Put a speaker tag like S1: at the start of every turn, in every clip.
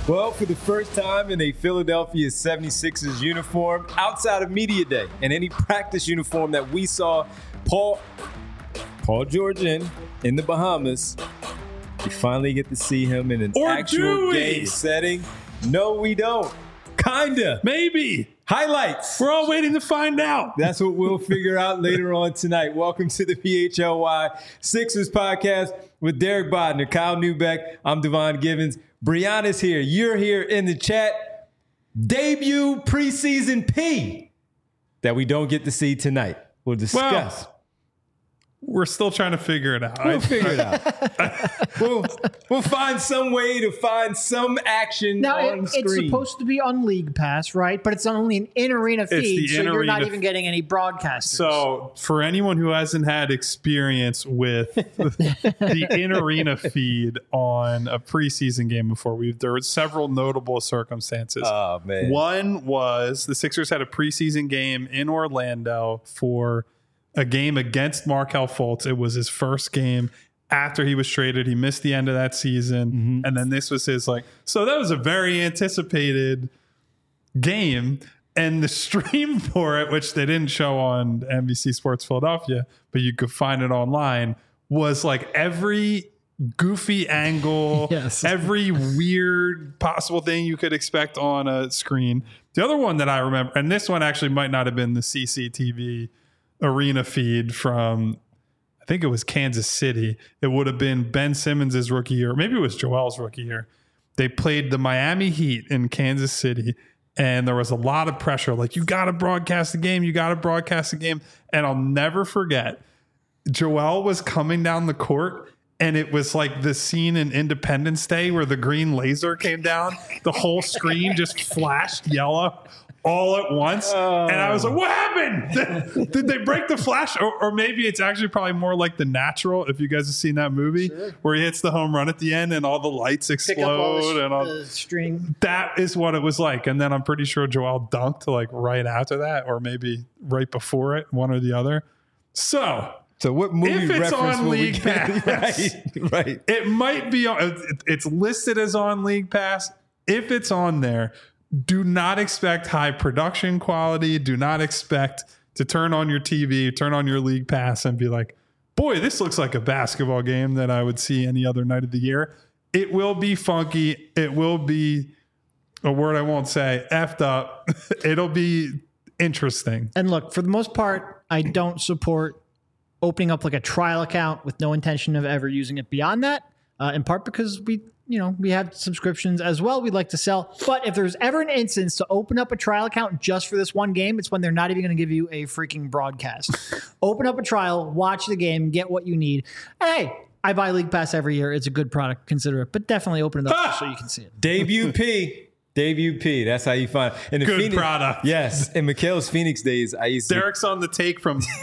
S1: Well, for the first time in a Philadelphia 76ers uniform, outside of Media Day and any practice uniform that we saw Paul George in the Bahamas, we finally get to see him in an actual game setting. No, we don't. Kinda.
S2: Maybe.
S1: Highlights.
S2: We're all waiting to find out.
S1: That's what we'll figure out later on tonight. Welcome to the PHLY Sixers podcast with Derek Bodner, Kyle Neubeck. I'm Devon Givens. Brianna's here. You're here in the chat. Debut preseason P that we don't get to see tonight. We'll discuss.
S2: Well, we're still trying to figure it out.
S1: We'll figure it out. We'll find some way to find some action on screen.
S3: It's supposed to be on League Pass, right? But it's only an in-arena feed, so you're not even getting any broadcasters.
S2: So for anyone who hasn't had experience with the in-arena feed on a preseason game before, there were several notable circumstances.
S1: Oh, man.
S2: One was the Sixers had a preseason game in Orlando for a game against Markelle Fultz. It was his first game after he was traded. He missed the end of that season. Mm-hmm. And then this was his so that was a very anticipated game. And the stream for it, which they didn't show on NBC Sports Philadelphia, but you could find it online, was every goofy angle, yes. Every weird possible thing you could expect on a screen. The other one that I remember, and this one actually might not have been the CCTV arena feed from, I think it was Kansas City. It would have been Ben Simmons' rookie year. Maybe it was Joel's rookie year. They played the Miami Heat in Kansas City, and there was a lot of pressure. You got to broadcast the game. You got to broadcast the game. And I'll never forget, Joel was coming down the court, and it was like the scene in Independence Day where the green laser came down. The whole screen just flashed yellow all at once. And I was like, what happened? Did they break the flash? Or maybe it's actually probably more like The Natural, if you guys have seen that movie, sure, where he hits the home run at the end and all the lights explode.
S3: And all the string.
S2: That is what it was like. And then I'm pretty sure Joel dunked right after that, or maybe right before it, one or the other. So
S1: what movie
S2: if it's
S1: reference
S2: on
S1: will
S2: League Pass,
S1: right.
S2: It might be on. It's listed as on League Pass. If it's on there, do not expect high production quality. Do not expect to turn on your TV, turn on your League Pass and be like, boy, this looks like a basketball game that I would see any other night of the year. It will be funky. It will be a word I won't say, effed up. It'll be interesting.
S3: And look, for the most part, I don't support opening up a trial account with no intention of ever using it beyond that, in part because we have subscriptions as well we'd like to sell. But if there's ever an instance to open up a trial account just for this one game, it's when they're not even going to give you a freaking broadcast. Open up a trial, watch the game, get what you need. And hey, I buy League Pass every year. It's a good product. Consider it. But definitely open it up so you can see it.
S1: Debut P. Debut P. That's how you find it.
S2: Good product.
S1: Yes. In Mikhail's Phoenix days, I used to.
S2: Derek's on the take from big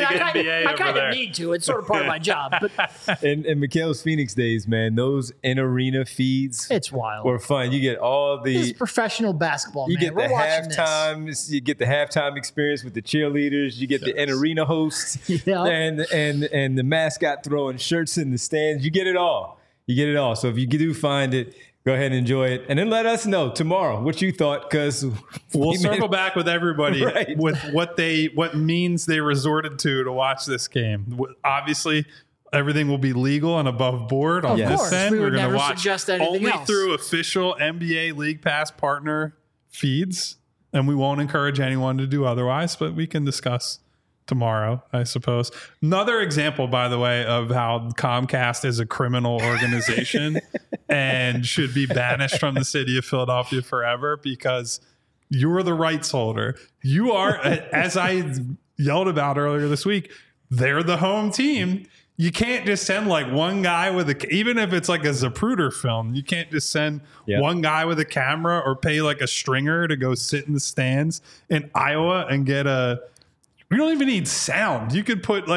S2: NBA
S3: I kind of need to. It's sort of part of my job. But
S1: in Mikhail's Phoenix days, man, those in-arena feeds.
S3: It's wild.
S1: Were fun. You get all the.
S3: This is professional basketball, man.
S1: You get the halftime. You get the halftime experience with the cheerleaders. You get the in-arena hosts.
S3: Yeah.
S1: And the mascot throwing shirts in the stands. You get it all. So if you do find it, go ahead and enjoy it. And then let us know tomorrow what you thought, because
S2: we'll circle back with everybody with what means they resorted to watch this game. Obviously, everything will be legal and above board on this end.
S3: We're
S2: going to
S3: watch
S2: only through official NBA League Pass partner feeds, and we won't encourage anyone to do otherwise, but we can discuss tomorrow, I suppose. Another example, by the way, of how Comcast is a criminal organization and should be banished from the city of Philadelphia forever, because you're the rights holder. You are, as I yelled about earlier this week, they're the home team. You can't just send one guy with even if it's a Zapruder film, you can't just send one guy with a camera or pay a stringer to go sit in the stands in Iowa and get we don't even need sound. You could put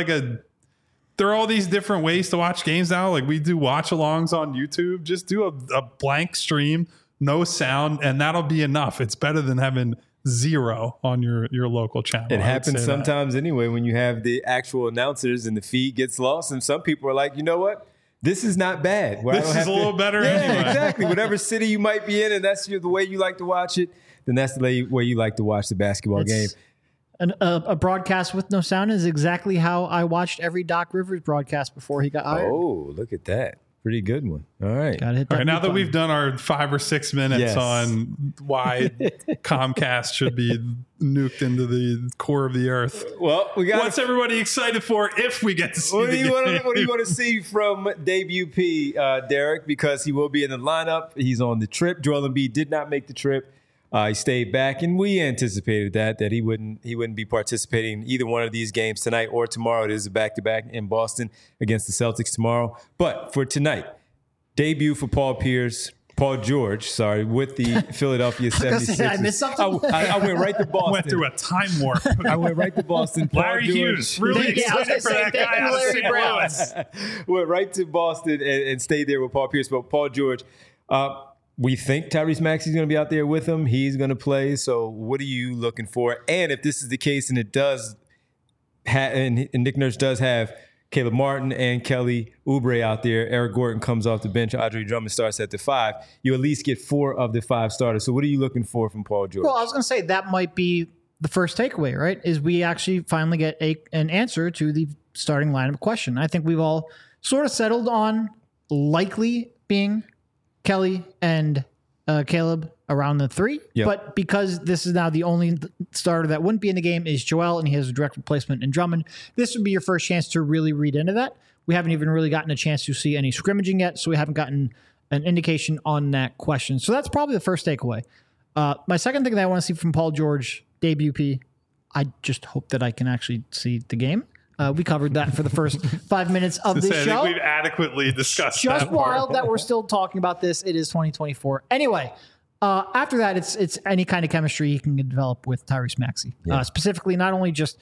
S2: there are all these different ways to watch games now. We do watch-alongs on YouTube. Just do a blank stream, no sound, and that'll be enough. It's better than having zero on your local channel.
S1: It happens sometimes anyway when you have the actual announcers and the feed gets lost. And some people are like, you know what? this is not bad.
S2: This is a little better anyway.
S1: Exactly. Whatever city you might be in, and that's the way you like to watch it, then that's the way you like to watch the basketball game.
S3: A broadcast with no sound is exactly how I watched every Doc Rivers broadcast before he got hired.
S1: Oh, look at that. Pretty good one. All right.
S3: Gotta hit that
S2: All right, now that
S3: button.
S2: we've done our 5 or 6 minutes
S1: Yes.
S2: on why Comcast should be nuked into the core of the earth,
S1: Well, we got.
S2: what's everybody excited for if we get to see
S1: What
S2: the
S1: do you
S2: game?
S1: want to see from debut P, Derek? Because he will be in the lineup. He's on the trip. Joel Embiid did not make the trip. He stayed back, and we anticipated that he wouldn't be participating in either one of these games tonight or tomorrow. It is a back-to-back in Boston against the Celtics tomorrow. But for tonight, debut for Paul George, with the Philadelphia 76ers.
S3: Did I miss something?
S1: I went right to Boston.
S2: Went through a time warp.
S1: I went right to Boston. Paul
S2: Larry
S1: George.
S2: Hughes, really
S3: Yeah, I was
S2: excited for
S3: gonna
S2: that
S3: say,
S2: guy
S3: thank you,
S2: out of
S3: Larry
S2: St.
S3: Brown.
S2: Louis.
S1: Went right to Boston and stayed there with Paul Pierce. But Paul George, we think Tyrese Maxey's going to be out there with him. He's going to play. So what are you looking for? And if this is the case, and it does, and Nick Nurse does have Caleb Martin and Kelly Oubre out there, Eric Gordon comes off the bench, Andre Drummond starts at the 5. You at least get 4 of the 5 starters. So what are you looking for from Paul George?
S3: Well, I was going to say that might be the first takeaway, right? Is we actually finally get an answer to the starting lineup question. I think we've all sort of settled on likely being Kelly and Caleb around the 3.
S1: Yep.
S3: But because this is now the only starter that wouldn't be in the game is Joel, and he has a direct replacement in Drummond, this would be your first chance to really read into that. We haven't even really gotten a chance to see any scrimmaging yet, so we haven't gotten an indication on that question. So that's probably the first takeaway. My second thing that I want to see from Paul George, debut P, I just hope that I can actually see the game. We covered that for the first 5 minutes of this
S2: I
S3: show.
S2: think we've adequately discussed
S3: Just
S2: that part.
S3: wild that we're still talking about this. It is 2024. Anyway, after that, it's any kind of chemistry you can develop with Tyrese Maxey. Specifically, not only just,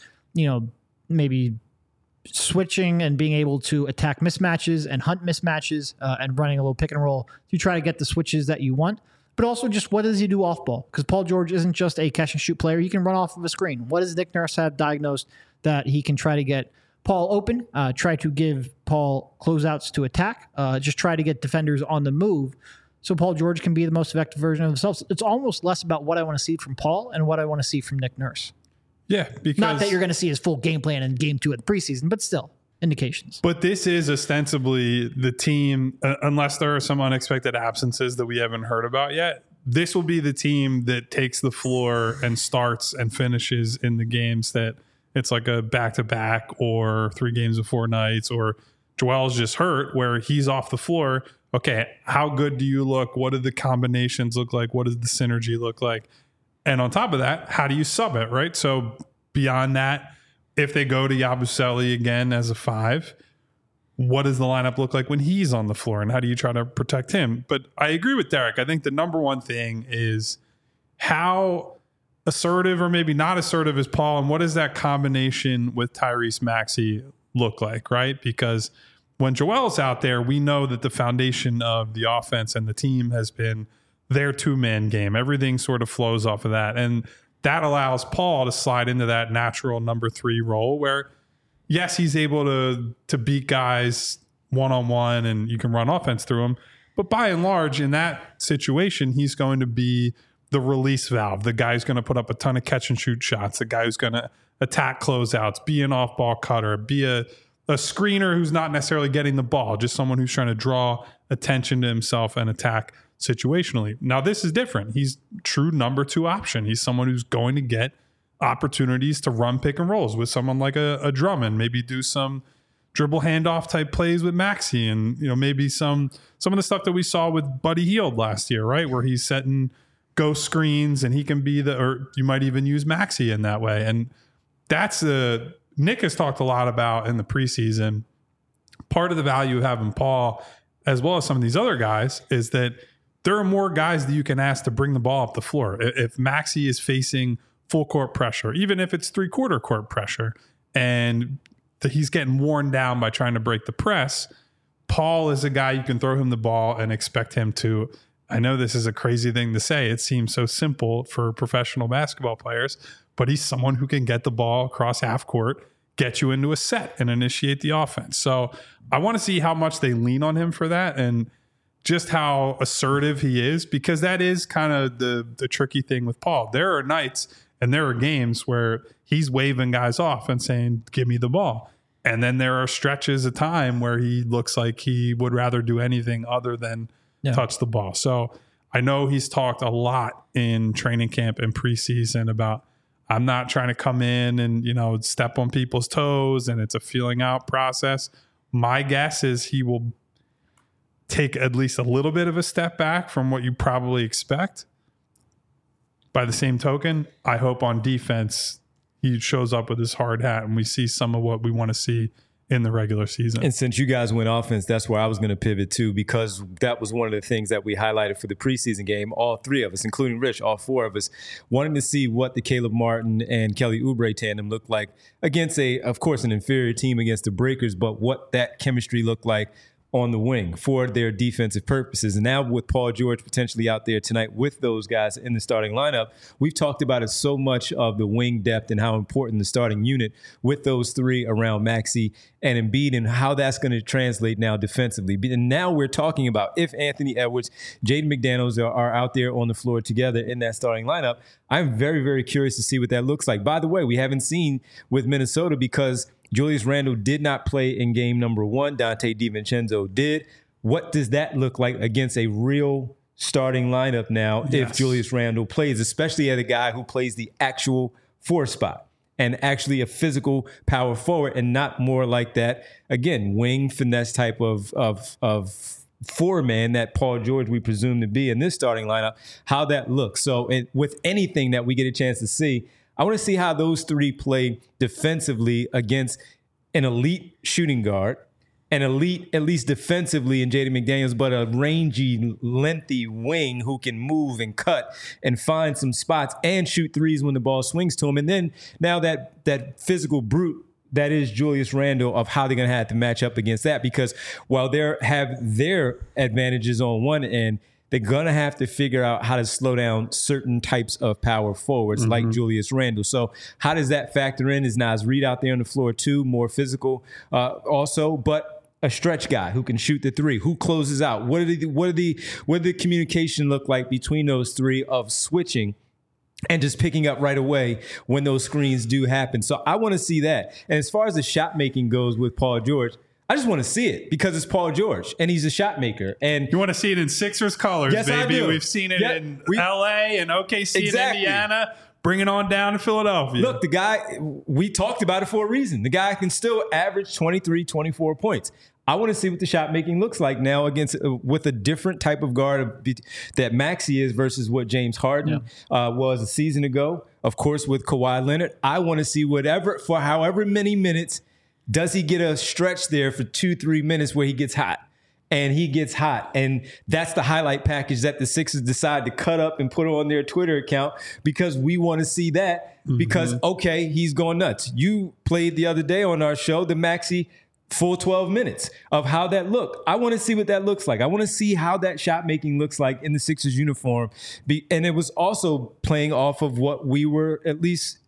S3: maybe switching and being able to attack mismatches and hunt mismatches and running a little pick and roll to try to get the switches that you want, but also just what does he do off ball? Because Paul George isn't just a catch and shoot player. He can run off of a screen. What does Nick Nurse have diagnosed that he can try to get Paul open, try to give Paul closeouts to attack, just try to get defenders on the move so Paul George can be the most effective version of himself. It's almost less about what I want to see from Paul and what I want to see from Nick Nurse.
S2: Yeah, because
S3: Not that you're going to see his full game plan in game 2 of the preseason, but still indications.
S2: But this is ostensibly the team, unless there are some unexpected absences that we haven't heard about yet. This will be the team that takes the floor and starts and finishes in the games that it's like a back-to-back or 3 games of 4 nights, or Joel's just hurt where he's off the floor. Okay, how good do you look? What do the combinations look like? What does the synergy look like? And on top of that, how do you sub it, right? So beyond that, if they go to Yabusele again as a 5, what does the lineup look like when he's on the floor, and how do you try to protect him? But I agree with Derek. I think the number one thing is how assertive or maybe not assertive is Paul, and what does that combination with Tyrese Maxey look like, right? Because when Joel's out there, we know that the foundation of the offense and the team has been their 2-man game. Everything sort of flows off of that. And that allows Paul to slide into that natural number 3 role where, yes, he's able to beat guys one-on-one and you can run offense through him. But by and large, in that situation, he's going to be the release valve, the guy who's going to put up a ton of catch and shoot shots, the guy who's going to attack closeouts, be an off-ball cutter, be a screener who's not necessarily getting the ball, just someone who's trying to draw attention to himself and attack situationally. Now, this is different. He's true number 2 option. He's someone who's going to get opportunities to run pick and rolls with someone like a Drummond, maybe do some dribble handoff type plays with Maxey, and maybe some of the stuff that we saw with Buddy Hield last year, right, where he's setting ghost screens and he can be or you might even use Maxey in that way. And that's Nick has talked a lot about in the preseason. Part of the value of having Paul, as well as some of these other guys, is that there are more guys that you can ask to bring the ball up the floor. If Maxey is facing full court pressure, even if it's 3/4 court pressure, and he's getting worn down by trying to break the press, Paul is a guy you can throw him the ball and expect him to. I know this is a crazy thing to say. It seems so simple for professional basketball players, but he's someone who can get the ball across half court, get you into a set and initiate the offense. So I want to see how much they lean on him for that and just how assertive he is, because that is kind of the tricky thing with Paul. There are nights and there are games where he's waving guys off and saying, give me the ball. And then there are stretches of time where he looks like he would rather do anything other than touch the ball. So I know he's talked a lot in training camp and preseason about, I'm not trying to come in and, step on people's toes and it's a feeling out process. My guess is he will take at least a little bit of a step back from what you probably expect. By the same token, I hope on defense he shows up with his hard hat and we see some of what we want to see in the regular season.
S1: And since you guys went offense, that's where I was going to pivot to, because that was one of the things that we highlighted for the preseason game. All three of us, including Rich, all four of us, wanted to see what the Caleb Martin and Kelly Oubre tandem looked like against of course, an inferior team against the Breakers, but what that chemistry looked like on the wing for their defensive purposes. And now with Paul George potentially out there tonight with those guys in the starting lineup, we've talked about it so much of the wing depth and how important the starting unit with those three around Maxey and Embiid and how that's going to translate now defensively. And now we're talking about if Anthony Edwards, Jaden McDaniels are out there on the floor together in that starting lineup. I'm very, very curious to see what that looks like. By the way, we haven't seen with Minnesota because Julius Randle did not play in game number 1. Dante DiVincenzo did. What does that look like against a real starting lineup now if Julius Randle plays, especially as a guy who plays the actual 4 spot and actually a physical power forward and not more like that, again, wing finesse type of 4-man that Paul George we presume to be in this starting lineup, how that looks. So with anything that we get a chance to see, I want to see how those three play defensively against an elite shooting guard, an elite, at least defensively, in Jaden McDaniels, but a rangy, lengthy wing who can move and cut and find some spots and shoot threes when the ball swings to him. And then now that physical brute that is Julius Randle, of how they're going to have to match up against that, because while they have their advantages on one end, they're going to have to figure out how to slow down certain types of power forwards like Julius Randle. So how does that factor in? Is Naz Reid out there on the floor too, more physical also, but a stretch guy who can shoot the three, who closes out? What did the communication look like between those three of switching and just picking up right away when those screens do happen? So I want to see that. And as far as the shot making goes with Paul George, I just want to see it because it's Paul George and he's a shot maker. And
S2: you want to see it in Sixers colors,
S1: yes,
S2: baby.
S1: I do.
S2: We've seen it in LA and OKC and Indiana. Bring it on down to Philadelphia.
S1: Look, the guy, we talked about it for a reason. The guy can still average 23, 24 points. I want to see what the shot making looks like now against with a different type of guard that Maxey is versus what James Harden was a season ago. Of course, with Kawhi Leonard, I want to see for however many minutes. Does he get a stretch there for 2-3 minutes where he gets hot? And he gets hot. And that's the highlight package that the Sixers decide to cut up and put on their Twitter account because we want to see that because, okay, he's going nuts. You played the other day on our show, the Maxey full 12 minutes of how that looked. I want to see what that looks like. I want to see how that shot making looks like in the Sixers uniform. And it was also playing off of what we were at least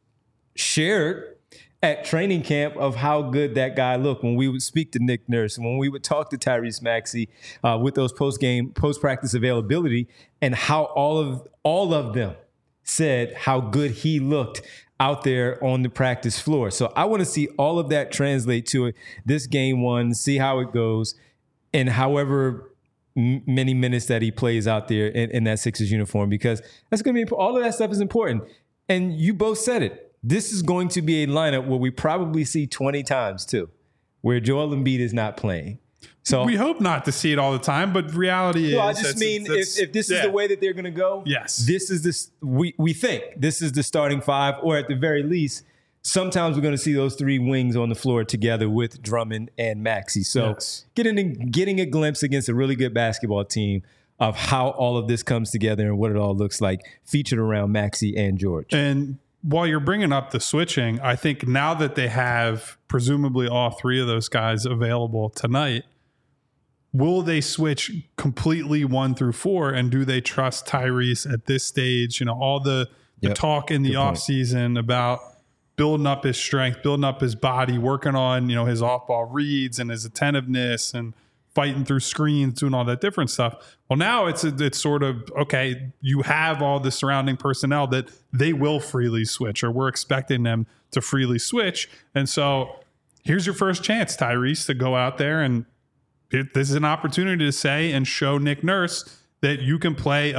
S1: shared at training camp of how good that guy looked when we would speak to Nick Nurse and when we would talk to Tyrese Maxey with those post-practice availability and how all of them said how good he looked out there on the practice floor. So I want to see all of that translate to it this game 1, see how it goes, and however many minutes that he plays out there in that Sixers uniform, because that's going to be all of that stuff is important. And you both said it. This is going to be a lineup where we probably see 20 times too, where Joel Embiid is not playing. So
S2: we hope not to see it all the time, but reality is.
S1: I just mean if this is the way that they're going to go,
S2: yes,
S1: this is this. We think this is the starting 5, or at the very least, sometimes we're going to see those 3 wings on the floor together with Drummond and Maxey. So getting a glimpse against a really good basketball team of how all of this comes together and what it all looks like, featured around Maxey and George.
S2: And while you're bringing up the switching, I think now that they have presumably all 3 of those guys available tonight, will they switch completely 1 through 4? And do they trust Tyrese at this stage? You know, all the talk in the offseason about building up his strength, building up his body, working on, his off-ball reads and his attentiveness and fighting through screens, doing all that different stuff. Well, now it's sort of, okay, you have all the surrounding personnel that they will freely switch, or we're expecting them to freely switch. And so here's your first chance, Tyrese, to go out there, and this is an opportunity to say and show Nick Nurse that you can play a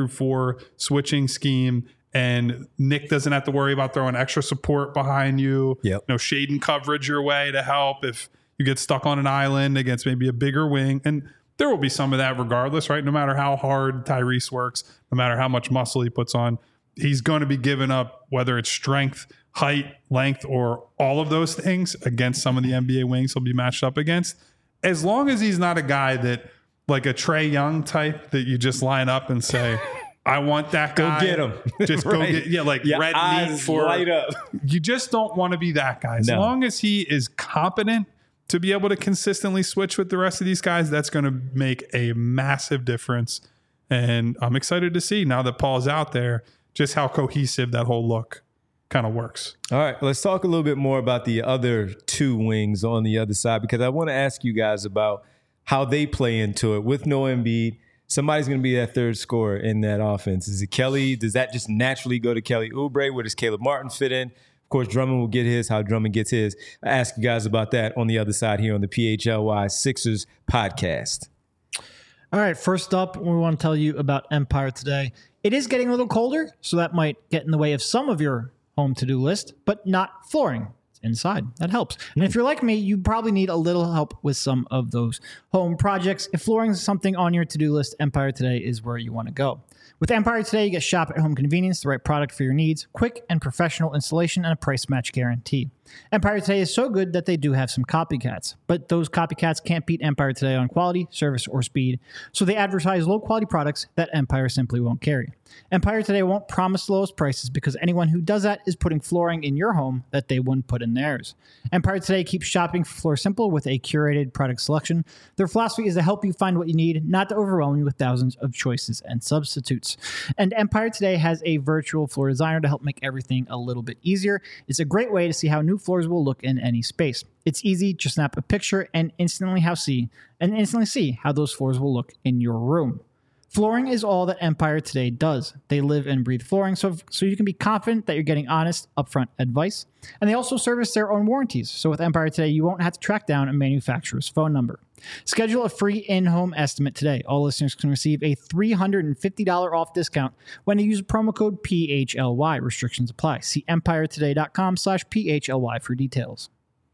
S2: 1-4 switching scheme, and Nick doesn't have to worry about throwing extra support behind you, shading coverage your way to help if you get stuck on an island against maybe a bigger wing. And there will be some of that regardless, right? No matter how hard Tyrese works, no matter how much muscle he puts on, he's going to be giving up, whether it's strength, height, length, or all of those things against some of the NBA wings he'll be matched up against. As long as he's not a guy that, like a Trae Young type, that you just line up and say, I want that guy.
S1: Go get him.
S2: Just
S1: right.
S2: Go get,
S1: Your
S2: red
S1: eyes
S2: meat for
S1: light up.
S2: You just don't want to be that guy. As long as he is competent to be able to consistently switch with the rest of these guys, that's going to make a massive difference. And I'm excited to see, now that Paul's out there, just how cohesive that whole look kind of works.
S1: All right, let's talk a little bit more about the other two wings on the other side, because I want to ask you guys about how they play into it. With no Embiid, somebody's going to be that third scorer in that offense. Is it Kelly? Does that just naturally go to Kelly Oubre? Where does Caleb Martin fit in? Of course, Drummond will get his, how Drummond gets his. I ask you guys about that on the other side here on the PHLY Sixers podcast.
S3: All right, first up, we want to tell you about Empire Today. It is getting a little colder, so that might get in the way of some of your home to-do list, but not flooring. It's inside. That helps. And if you're like me, you probably need a little help with some of those home projects. If flooring is something on your to-do list, Empire Today is where you want to go. With Empire Today, you get shop at home convenience, the right product for your needs, quick and professional installation, and a price match guarantee. Empire Today is so good that they do have some copycats, but those copycats can't beat Empire Today on quality, service, or speed, so they advertise low-quality products that Empire simply won't carry. Empire Today won't promise the lowest prices, because anyone who does that is putting flooring in your home that they wouldn't put in theirs. Empire Today keeps shopping for floor simple with a curated product selection. Their philosophy is to help you find what you need, not to overwhelm you with thousands of choices and substitutes. And Empire Today has a virtual floor designer to help make everything a little bit easier. It's a great way to see how new floors will look in any space. It's easy, just snap a picture and instantly see how those floors will look in your room. Flooring is all that Empire Today does. They live and breathe flooring, so you can be confident that you're getting honest, upfront advice. And they also service their own warranties. So with Empire Today, you won't have to track down a manufacturer's phone number. Schedule a free in-home estimate today. All listeners can receive a $350 off discount when you use promo code PHLY. Restrictions apply. See empiretoday.com/PHLY for details.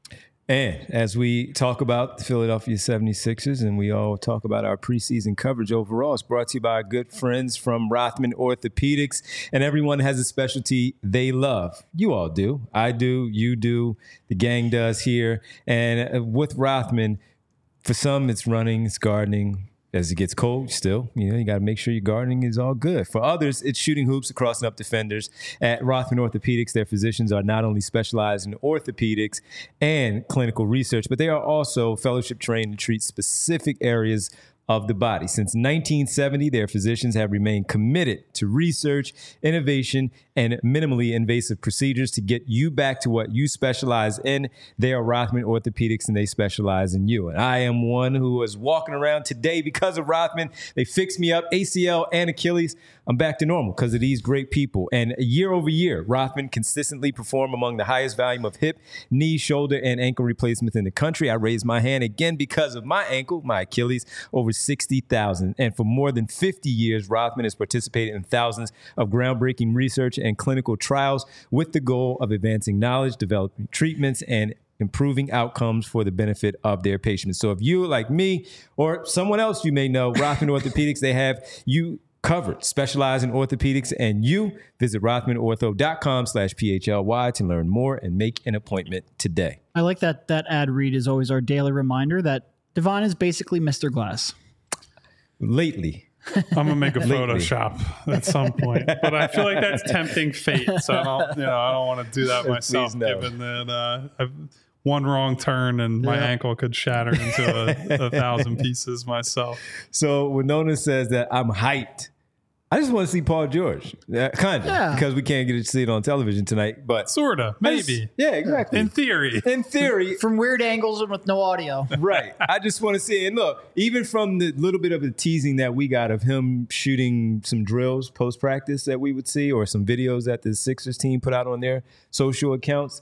S1: And as we talk about the Philadelphia 76ers and we all talk about our preseason coverage overall, it's brought to you by our good friends from Rothman Orthopedics. And everyone has a specialty they love. You all do. I do. You do. The gang does here. And with Rothman, for some, it's running, it's gardening. As it gets cold, still, you got to make sure your gardening is all good. For others, it's shooting hoops or crossing up defenders. At Rothman Orthopedics, their physicians are not only specialized in orthopedics and clinical research, but they are also fellowship trained to treat specific areas of the body. Since 1970, their physicians have remained committed to research, innovation, and minimally invasive procedures to get you back to what you specialize in. They are Rothman Orthopedics, and they specialize in you. And I am one who is walking around today because of Rothman. They fixed me up, ACL and Achilles. I'm back to normal because of these great people. And year over year, Rothman consistently perform among the highest volume of hip, knee, shoulder, and ankle replacements in the country. I raised my hand again because of my ankle, my Achilles, over 60,000. And for more than 50 years, Rothman has participated in thousands of groundbreaking research and clinical trials with the goal of advancing knowledge, developing treatments, and improving outcomes for the benefit of their patients. So if you, like me, or someone else you may know, Rothman Orthopedics, they have you covered. Specialize in orthopedics and you. Visit rothmanortho.com/PHLY to learn more and make an appointment today.
S3: I like that ad read is always our daily reminder that Devon is basically Mr. Glass.
S1: Lately.
S2: I'm gonna make a Photoshop at some point, but I feel like that's tempting fate. So I don't want to do that myself. Given that I've one wrong turn and my ankle could shatter into a thousand pieces myself.
S1: So Winona says that I'm hyped I just want to see Paul George, kind of, because we can't get to see it on television tonight. But
S2: sorta, maybe.
S1: Yeah, exactly.
S2: In theory,
S3: from weird angles and with no audio.
S1: Right. I just want to see it. And look, even from the little bit of the teasing that we got of him shooting some drills post practice that we would see, or some videos that the Sixers team put out on their social accounts,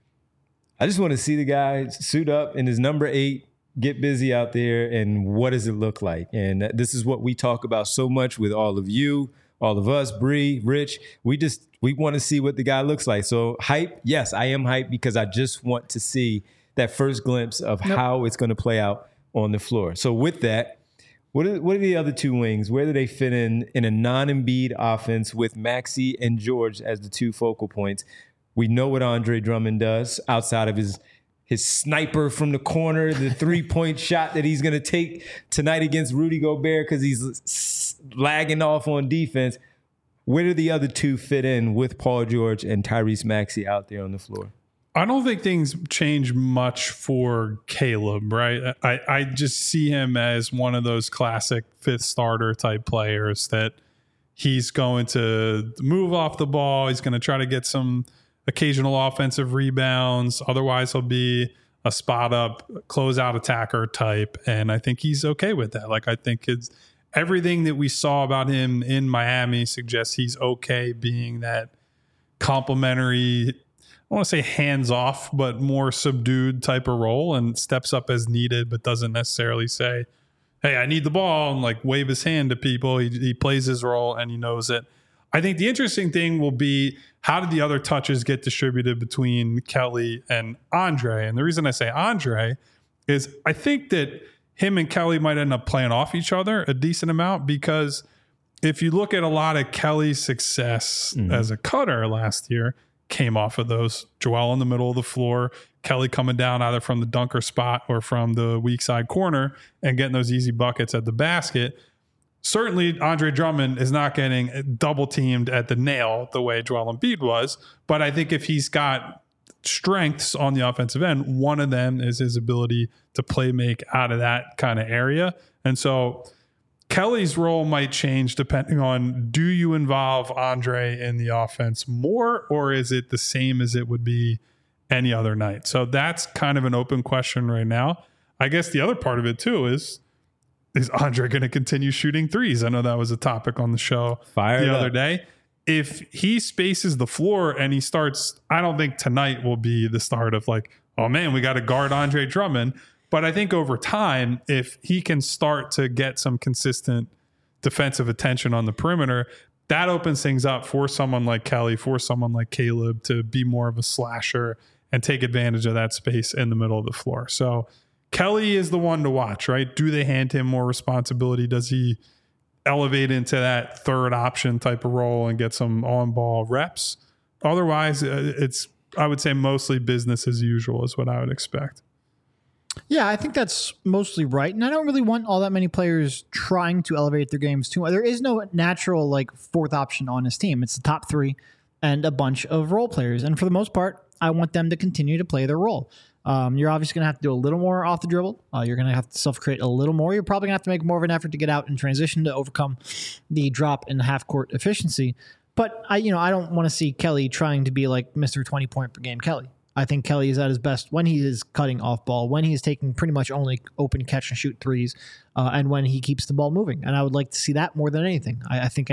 S1: I just want to see the guy suit up in his number 8. Get busy out there, and what does it look like? And this is what we talk about so much with all of you, all of us, Bree, Rich. We want to see what the guy looks like. So hype, yes, I am hyped because I just want to see that first glimpse of how it's going to play out on the floor. So with that, what are the other two wings? Where do they fit in a non-Embiid offense with Maxey and George as the two focal points? We know what Andre Drummond does outside of his sniper from the corner, the 3-point shot that he's going to take tonight against Rudy Gobert because he's lagging off on defense. Where do the other two fit in with Paul George and Tyrese Maxey out there on the floor?
S2: I don't think things change much for Caleb, right? I just see him as one of those classic fifth starter type players that he's going to move off the ball. He's going to try to get some occasional offensive rebounds. Otherwise, he'll be a spot up, closeout attacker type. And I think he's okay with that. Like, I think it's everything that we saw about him in Miami suggests he's okay being that complimentary, I want to say hands off, but more subdued type of role, and steps up as needed, but doesn't necessarily say, hey, I need the ball, and like wave his hand to people. He plays his role and he knows it. I think the interesting thing will be, how did the other touches get distributed between Kelly and Andre? And the reason I say Andre is I think that him and Kelly might end up playing off each other a decent amount, because if you look at a lot of Kelly's success as a cutter last year, came off of those Joel in the middle of the floor, Kelly coming down either from the dunker spot or from the weak side corner and getting those easy buckets at the basket. Certainly, Andre Drummond is not getting double teamed at the nail the way Joel Embiid was. But I think if he's got strengths on the offensive end, one of them is his ability to play make out of that kind of area. And so Kelly's role might change depending on, do you involve Andre in the offense more, or is it the same as it would be any other night? So that's kind of an open question right now. I guess the other part of it too is Andre going to continue shooting threes? I know that was a topic on the show the other day. If he spaces the floor and he starts, I don't think tonight will be the start of like, oh man, we got to guard Andre Drummond. But I think over time, if he can start to get some consistent defensive attention on the perimeter, that opens things up for someone like Kelly, for someone like Caleb to be more of a slasher and take advantage of that space in the middle of the floor. So Kelly is the one to watch, right? Do they hand him more responsibility? Does he elevate into that third option type of role and get some on-ball reps? Otherwise, it's, I would say, mostly business as usual is what I would expect.
S3: Yeah, I think that's mostly right. And I don't really want all that many players trying to elevate their games too. There is no natural like fourth option on his team. It's the top three and a bunch of role players. And for the most part, I want them to continue to play their role. You're obviously going to have to do a little more off the dribble. You're going to have to self-create a little more. You're probably going to have to make more of an effort to get out in transition to overcome the drop in half-court efficiency. But I don't want to see Kelly trying to be like Mr. 20-point per game Kelly. I think Kelly is at his best when he is cutting off ball, when he is taking pretty much only open catch and shoot threes, and when he keeps the ball moving. And I would like to see that more than anything. I think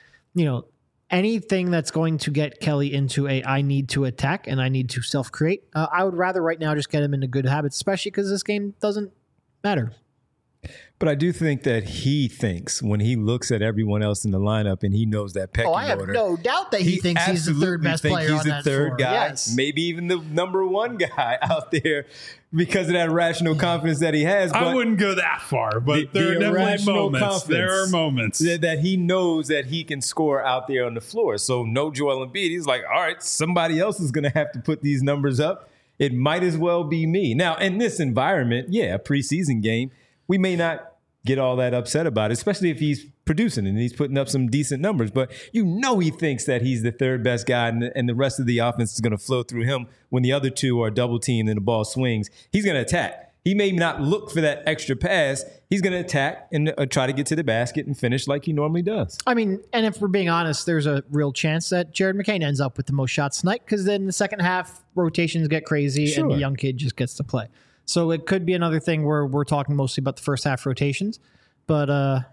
S3: anything that's going to get Kelly into I need to attack and I need to self-create, I would rather right now just get him into good habits, especially because this game doesn't matter. But
S1: I do think that he thinks when he looks at everyone else in the lineup and he knows that pecking order.
S3: I have no doubt that he thinks he's the third best player on that floor. He's the third guy,
S1: yes. Maybe even the number one guy out there because of that irrational confidence that he has. But
S2: I wouldn't go that far, but there are definitely moments. There are moments
S1: that he knows that he can score out there on the floor. So no Joel Embiid. He's like, all right, somebody else is going to have to put these numbers up. It might as well be me. Now, in this environment, a preseason game, we may not get all that upset about it, especially if he's producing and he's putting up some decent numbers. But he thinks that he's the third best guy and the rest of the offense is going to flow through him when the other two are double teamed and the ball swings. He's going to attack. he may not look for that extra pass. He's going to attack and try to get to the basket and finish like he normally does.
S3: I mean, and if we're being honest, there's a real chance that Jared McCain ends up with the most shots tonight because then the second half rotations get crazy and the young kid just gets to play. So it could be another thing where we're talking mostly about the first half rotations. But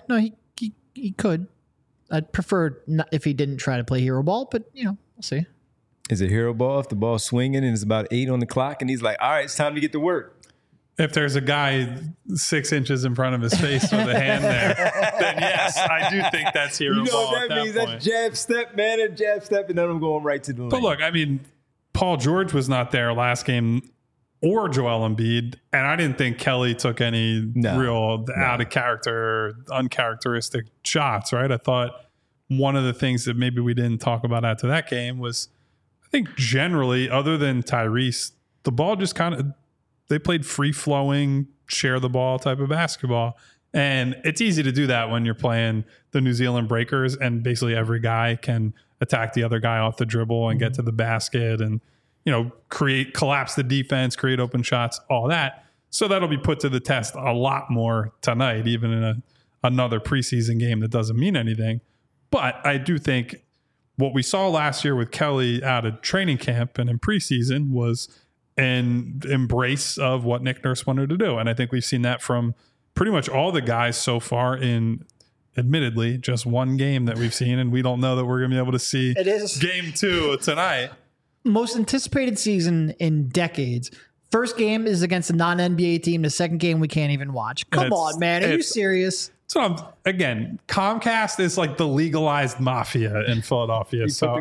S3: he could. I'd prefer not if he didn't try to play hero ball, but we'll see.
S1: Is it hero ball if the ball's swinging and it's about 8 on the clock and he's like, all right, it's time to get to work?
S2: If there's a guy 6 inches in front of his face with a hand there, then yes, I do think that's hero ball.
S1: What that means? That's jab step, man, and jab step, and then I'm going right to the lane.
S2: But look, I mean, Paul George was not there last game, or Joel Embiid, and I didn't think Kelly took any real out of character, uncharacteristic shots, right? I thought one of the things that maybe we didn't talk about after that game was, I think generally, other than Tyrese, the ball just kind of, they played free-flowing, share the ball type of basketball. And it's easy to do that when you're playing the New Zealand Breakers and basically every guy can attack the other guy off the dribble and get to the basket and, collapse the defense, create open shots, all that. So that'll be put to the test a lot more tonight, even in another preseason game that doesn't mean anything. But I do think what we saw last year with Kelly out of training camp and in preseason was an embrace of what Nick Nurse wanted to do. And I think we've seen that from pretty much all the guys so far in, admittedly, just one game that we've seen. And we don't know that we're going to be able to see game 2 tonight.
S3: Most anticipated season in decades. First game is against a non-NBA team. The second game we can't even watch. Come on, man. Are you serious?
S2: So again, Comcast is like the legalized mafia in Philadelphia. So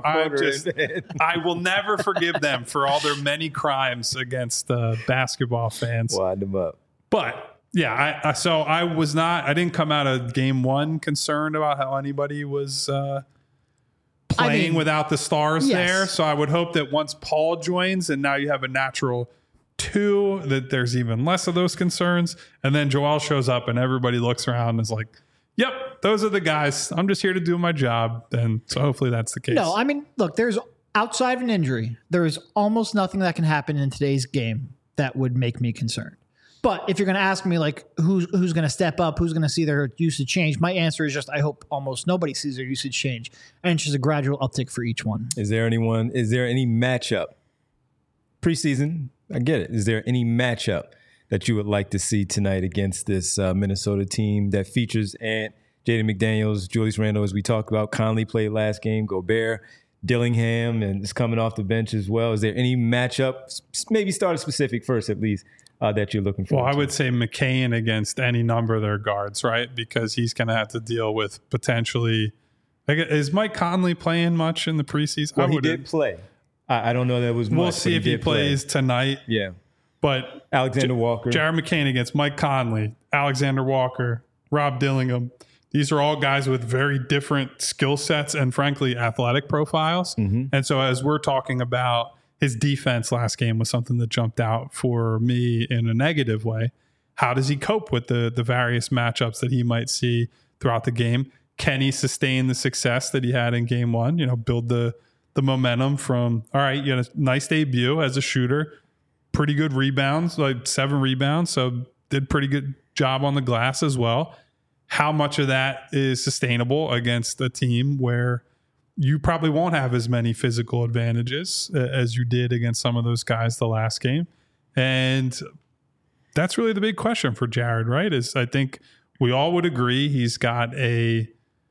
S2: I will never forgive them for all their many crimes against basketball fans.
S1: Wind them up.
S2: But yeah, I didn't come out of game 1 concerned about how anybody was playing without the stars there. So I would hope that once Paul joins and now you have a natural 2, that there's even less of those concerns. And then Joel shows up and everybody looks around and is like, yep, those are the guys. I'm just here to do my job. And so hopefully that's the case.
S3: No, I mean, look, there's outside of an injury, there is almost nothing that can happen in today's game that would make me concerned. But if you're going to ask me like who's going to step up, who's going to see their usage change, my answer is just I hope almost nobody sees their usage change. And it's just a gradual uptick for each one.
S1: Is there any matchup? Preseason, I get it. Is there any matchup that you would like to see tonight against this Minnesota team that features Ant, Jaden McDaniels, Julius Randle, as we talked about? Conley played last game, Gobert, Dillingham, and is coming off the bench as well. Is there any matchup, maybe start a specific first at least, that you're looking for?
S2: Well, I would say McCain against any number of their guards, right? Because he's going to have to deal with potentially. Is Mike Conley playing much in the preseason?
S1: Well, he did play. I don't know that was much.
S2: We'll see if he plays tonight.
S1: Yeah.
S2: But
S1: Alexander Walker.
S2: Jared McCain against Mike Conley, Alexander Walker, Rob Dillingham. These are all guys with very different skill sets and, frankly, athletic profiles. Mm-hmm. And so as we're talking about, his defense last game was something that jumped out for me in a negative way. How does he cope with the various matchups that he might see throughout the game? Can he sustain the success that he had in game 1? Build the momentum from, all right, you had a nice debut as a shooter, pretty good rebounds, like 7 rebounds. So did pretty good job on the glass as well. How much of that is sustainable against a team where you probably won't have as many physical advantages as you did against some of those guys the last game? And that's really the big question for Jared, right? I think we all would agree he's got a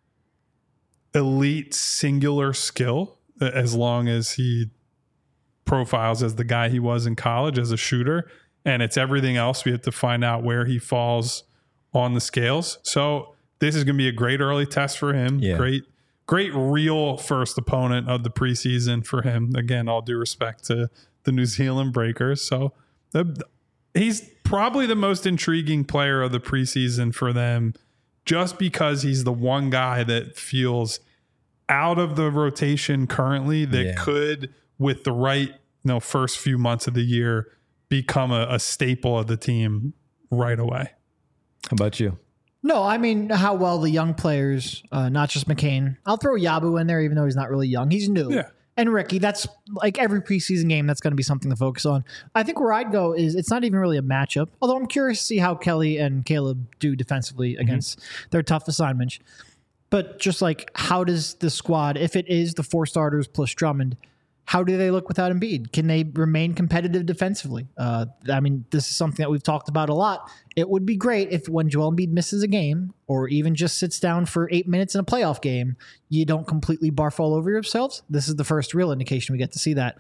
S2: elite singular skill as long as he profiles as the guy he was in college as a shooter. And it's everything else. We have to find out where he falls on the scales. So this is going to be a great early test for him. Yeah. Great real first opponent of the preseason for him. Again, all due respect to the New Zealand Breakers. So he's probably the most intriguing player of the preseason for them just because he's the one guy that feels out of the rotation currently that could, with the right first few months of the year, become a staple of the team right away.
S1: How about you?
S3: No, I mean, how well the young players, not just McCain. I'll throw Yabu in there, even though he's not really young. He's new.
S2: Yeah.
S3: And Ricky, that's like every preseason game, that's going to be something to focus on. I think where I'd go is it's not even really a matchup, although I'm curious to see how Kelly and Caleb do defensively against their tough assignments. But just like, how does the squad, if it is the 4 starters plus Drummond, how do they look without Embiid? Can they remain competitive defensively? I mean, this is something that we've talked about a lot. It would be great if when Joel Embiid misses a game or even just sits down for 8 minutes in a playoff game, you don't completely barf all over yourselves. This is the first real indication we get to see that.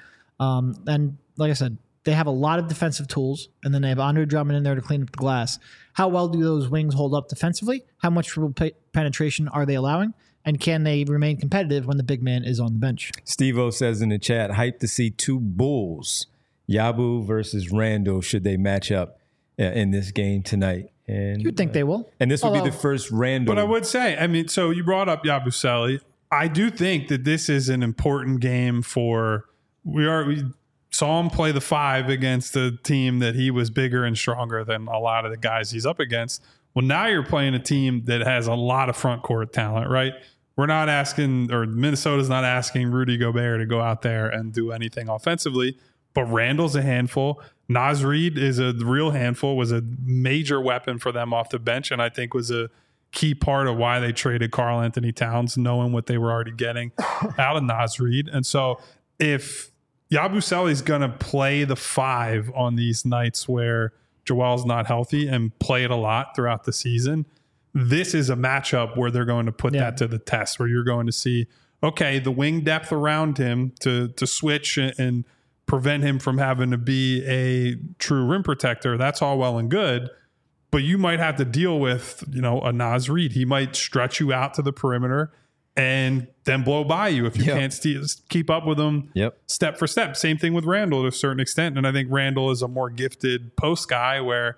S3: And like I said, they have a lot of defensive tools, and then they have Andre Drummond in there to clean up the glass. How well do those wings hold up defensively? How much penetration are they allowing? And can they remain competitive when the big man is on the bench?
S1: Steve-O says in the chat, hyped to see 2 Bulls, Yabu versus Randall, should they match up in this game tonight. And
S3: you'd think they will.
S1: And this would be the first Randall.
S2: But I would say, I mean, so you brought up Yabusele. I do think that this is an important game for, we saw him play the 5 against a team that he was bigger and stronger than a lot of the guys he's up against. Well, now you're playing a team that has a lot of front court talent, right? We're not asking, or Minnesota's not asking Rudy Gobert to go out there and do anything offensively, but Randall's a handful. Naz Reid is a real handful, was a major weapon for them off the bench, and I think was a key part of why they traded Karl Anthony Towns, knowing what they were already getting out of Naz Reid. And so if Yabusele is going to play the 5 on these nights where Joel's not healthy and play it a lot throughout the season, this is a matchup where they're going to put that to the test, where you're going to see, okay, the wing depth around him to switch and prevent him from having to be a true rim protector. That's all well and good, but you might have to deal with, a Naz Reid. He might stretch you out to the perimeter and then blow by you if you can't keep up with him step for step. Same thing with Randall to a certain extent. And I think Randall is a more gifted post guy where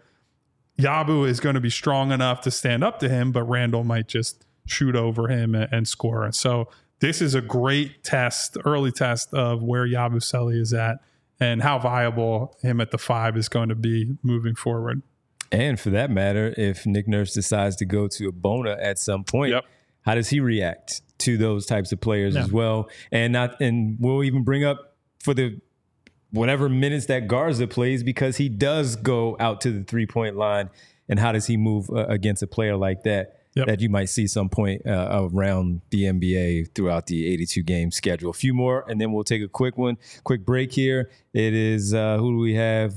S2: Yabu is going to be strong enough to stand up to him, but Randall might just shoot over him and score. And so this is a great test, early test of where Yabusele is at and how viable him at the 5 is going to be moving forward.
S1: And for that matter, if Nick Nurse decides to go to Abona at some point, how does he react to those types of players as well? And we'll even bring up for the whatever minutes that Garza plays, because he does go out to the 3-point line. And how does he move against a player like that that you might see some point around the NBA throughout the 82-game schedule? A few more, and then we'll take a quick break here. It is, who do we have?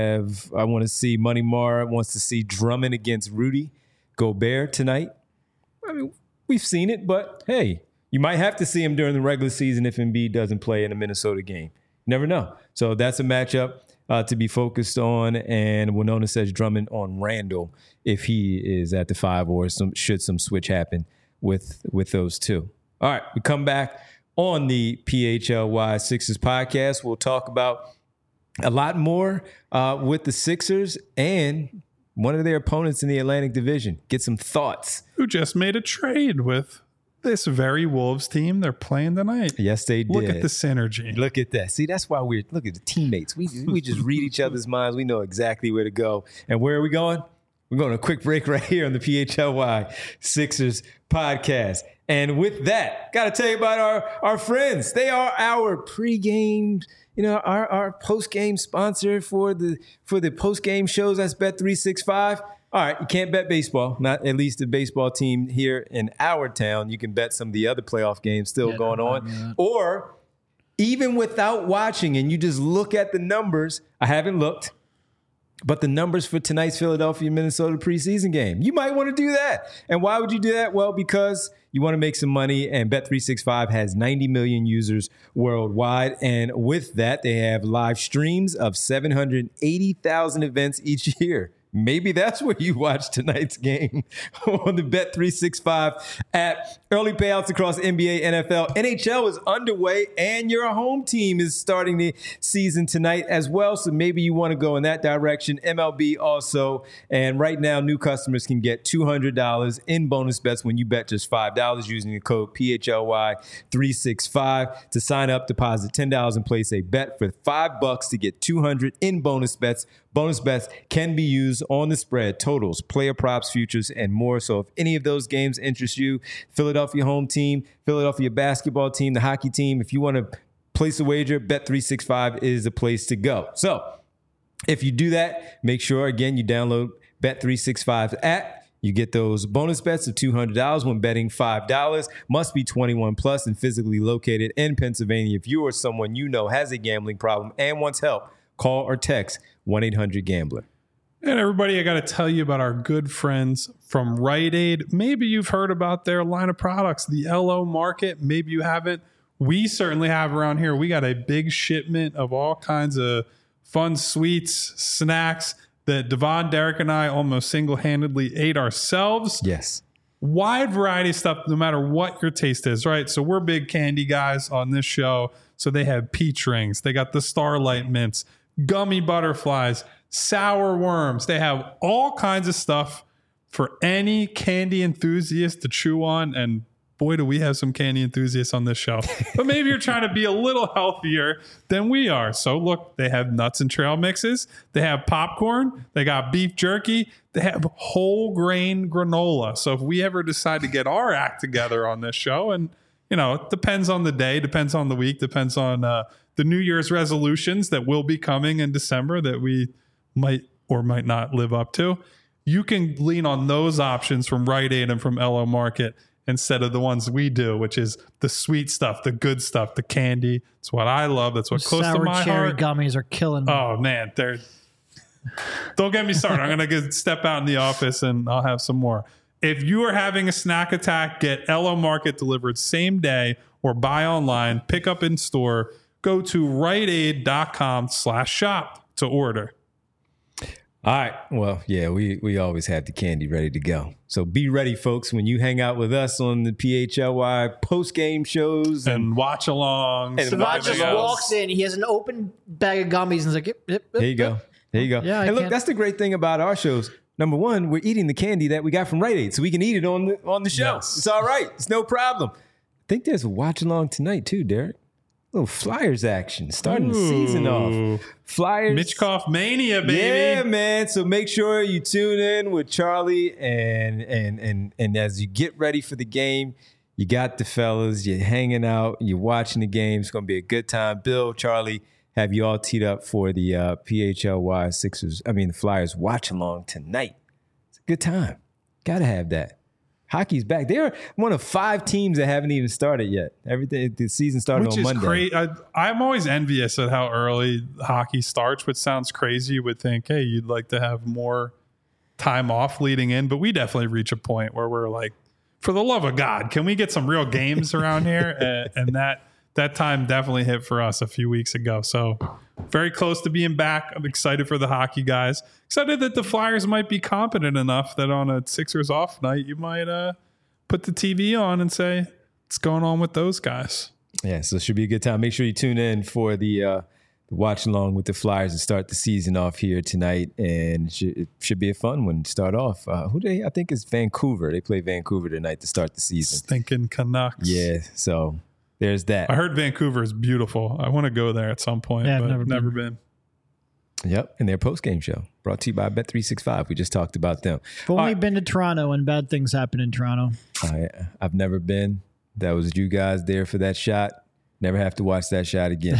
S1: I want to see Money Mar wants to see Drummond against Rudy Gobert tonight. I mean, we've seen it, but hey, you might have to see him during the regular season if Embiid doesn't play in a Minnesota game. Never know. So that's a matchup to be focused on. And Winona says Drummond on Randall if he is at the 5 or should some switch happen with those two. All right, we come back on the PHLY Sixers podcast. We'll talk about a lot more with the Sixers and one of their opponents in the Atlantic Division. Get some thoughts.
S2: Who just made a trade with this very Wolves team. They're playing tonight.
S1: Yes, they did.
S2: Look at the synergy.
S1: Look at that. See, that's why look at the teammates. We just read each other's minds. We know exactly where to go. And where are we going? We're going on a quick break right here on the PHLY Sixers podcast. And with that, got to tell you about our friends. They are our pregame, our post-game sponsor for the post-game shows. That's Bet365. All right, you can't bet baseball, not at least the baseball team here in our town. You can bet some of the other playoff games still going on. Or even without watching and you just look at the numbers. I haven't looked, but the numbers for tonight's Philadelphia-Minnesota preseason game. You might want to do that. And why would you do that? Well, because you want to make some money, and Bet365 has 90 million users worldwide. And with that, they have live streams of 780,000 events each year. Maybe that's where you watch tonight's game on the Bet365 app. Early payouts across NBA, NFL, NHL is underway, and your home team is starting the season tonight as well. So maybe you want to go in that direction. MLB also. And right now, new customers can get $200 in bonus bets when you bet just $5 using the code PHLY365. To sign up, deposit $10 and place a bet for $5 to get $200 in bonus bets. Bonus bets can be used on the spread, totals, player props, futures, and more. So if any of those games interest you, Philadelphia home team, Philadelphia basketball team, the hockey team, if you want to place a wager, Bet365 is the place to go. So if you do that, make sure, again, you download Bet365's app. You get those bonus bets of $200 when betting $5. Must be 21 plus and physically located in Pennsylvania. If you or someone you know has a gambling problem and wants help, call or text 1-800-GAMBLER.
S2: And everybody, I got to tell you about our good friends from Rite Aid. Maybe you've heard about their line of products, the LO Market. Maybe you haven't. We certainly have around here. We got a big shipment of all kinds of fun sweets, snacks that Devon, Derek, and I almost single-handedly ate ourselves.
S1: Yes.
S2: Wide variety of stuff, no matter what your taste is, right? So we're big candy guys on this show. So they have peach rings. They got the Starlight Mints, gummy butterflies, sour worms. They have all kinds of stuff for any candy enthusiast to chew on. And boy, do we have some candy enthusiasts on this show. But maybe you're trying to be a little healthier than we are. So look, they have nuts and trail mixes. They have popcorn. They got beef jerky. They have whole grain granola. So if we ever decide to get our act together on this show, and you know, it depends on the day, depends on the week, depends on the New Year's resolutions that will be coming in December that we might or might not live up to, you can lean on those options from Rite Aid and from LO Market instead of the ones we do, which is the sweet stuff, the good stuff, the candy. It's what I love. That's what close to my
S3: Sour cherry
S2: heart.
S3: gummies are killing me.
S2: Oh man, don't get me started. I'm gonna step out in the office and I'll have some more. If you are having a snack attack, get LO Market delivered same day or buy online, pick up in store. Go to riteaid.com/shop to order.
S1: All right. Well, yeah, we always have the candy ready to go. So be ready, folks, when you hang out with us on the PHLY post-game shows.
S2: And watch along.
S1: And
S3: Devon just walks in. He has an open bag of gummies and he's like, yep.
S1: There you go. There you go.
S3: Yeah,
S1: and look, that's the great thing about our shows. Number one, we're eating the candy that we got from Rite Aid, so we can eat it on the show.
S2: Yes.
S1: It's all right. It's no problem. I think there's a watch along tonight too, Derek. Little Flyers action starting the season off. Flyers.
S2: Mitchkoff Mania, baby.
S1: Yeah, man. So make sure you tune in with Charlie and as you get ready for the game, you got the fellas, you're hanging out, you're watching the game. It's going to be a good time. Bill, Charlie, have you all teed up for the PHLY the Flyers watch along tonight. It's a good time. Got to have that. Hockey's back. They're one of 5 teams that haven't even started yet. The season started on Monday.
S2: Which is great. I'm always envious at how early hockey starts, which sounds crazy. You would think, hey, you'd like to have more time off leading in, but we definitely reach a point where we're like, for the love of God, can we get some real games around here? And that time definitely hit for us a few weeks ago. So very close to being back. I'm excited for the hockey guys. Excited that the Flyers might be competent enough that on a Sixers off night, you might put the TV on and say, what's going on with those guys?
S1: Yeah, so it should be a good time. Make sure you tune in for the watch along with the Flyers to start the season off here tonight. And it should be a fun one to start off. I think it's Vancouver. They play Vancouver tonight to start the season.
S2: Stinking Canucks.
S1: Yeah, so there's that.
S2: I heard Vancouver is beautiful. I want to go there at some point,
S3: Yeah,
S2: but
S3: I've
S2: never been.
S1: Yep, and their post-game show brought to you by Bet365. We just talked about them.
S3: I've only been to Toronto and bad things happen in Toronto.
S1: I've never been. That was you guys there for that shot. Never have to watch that shot again.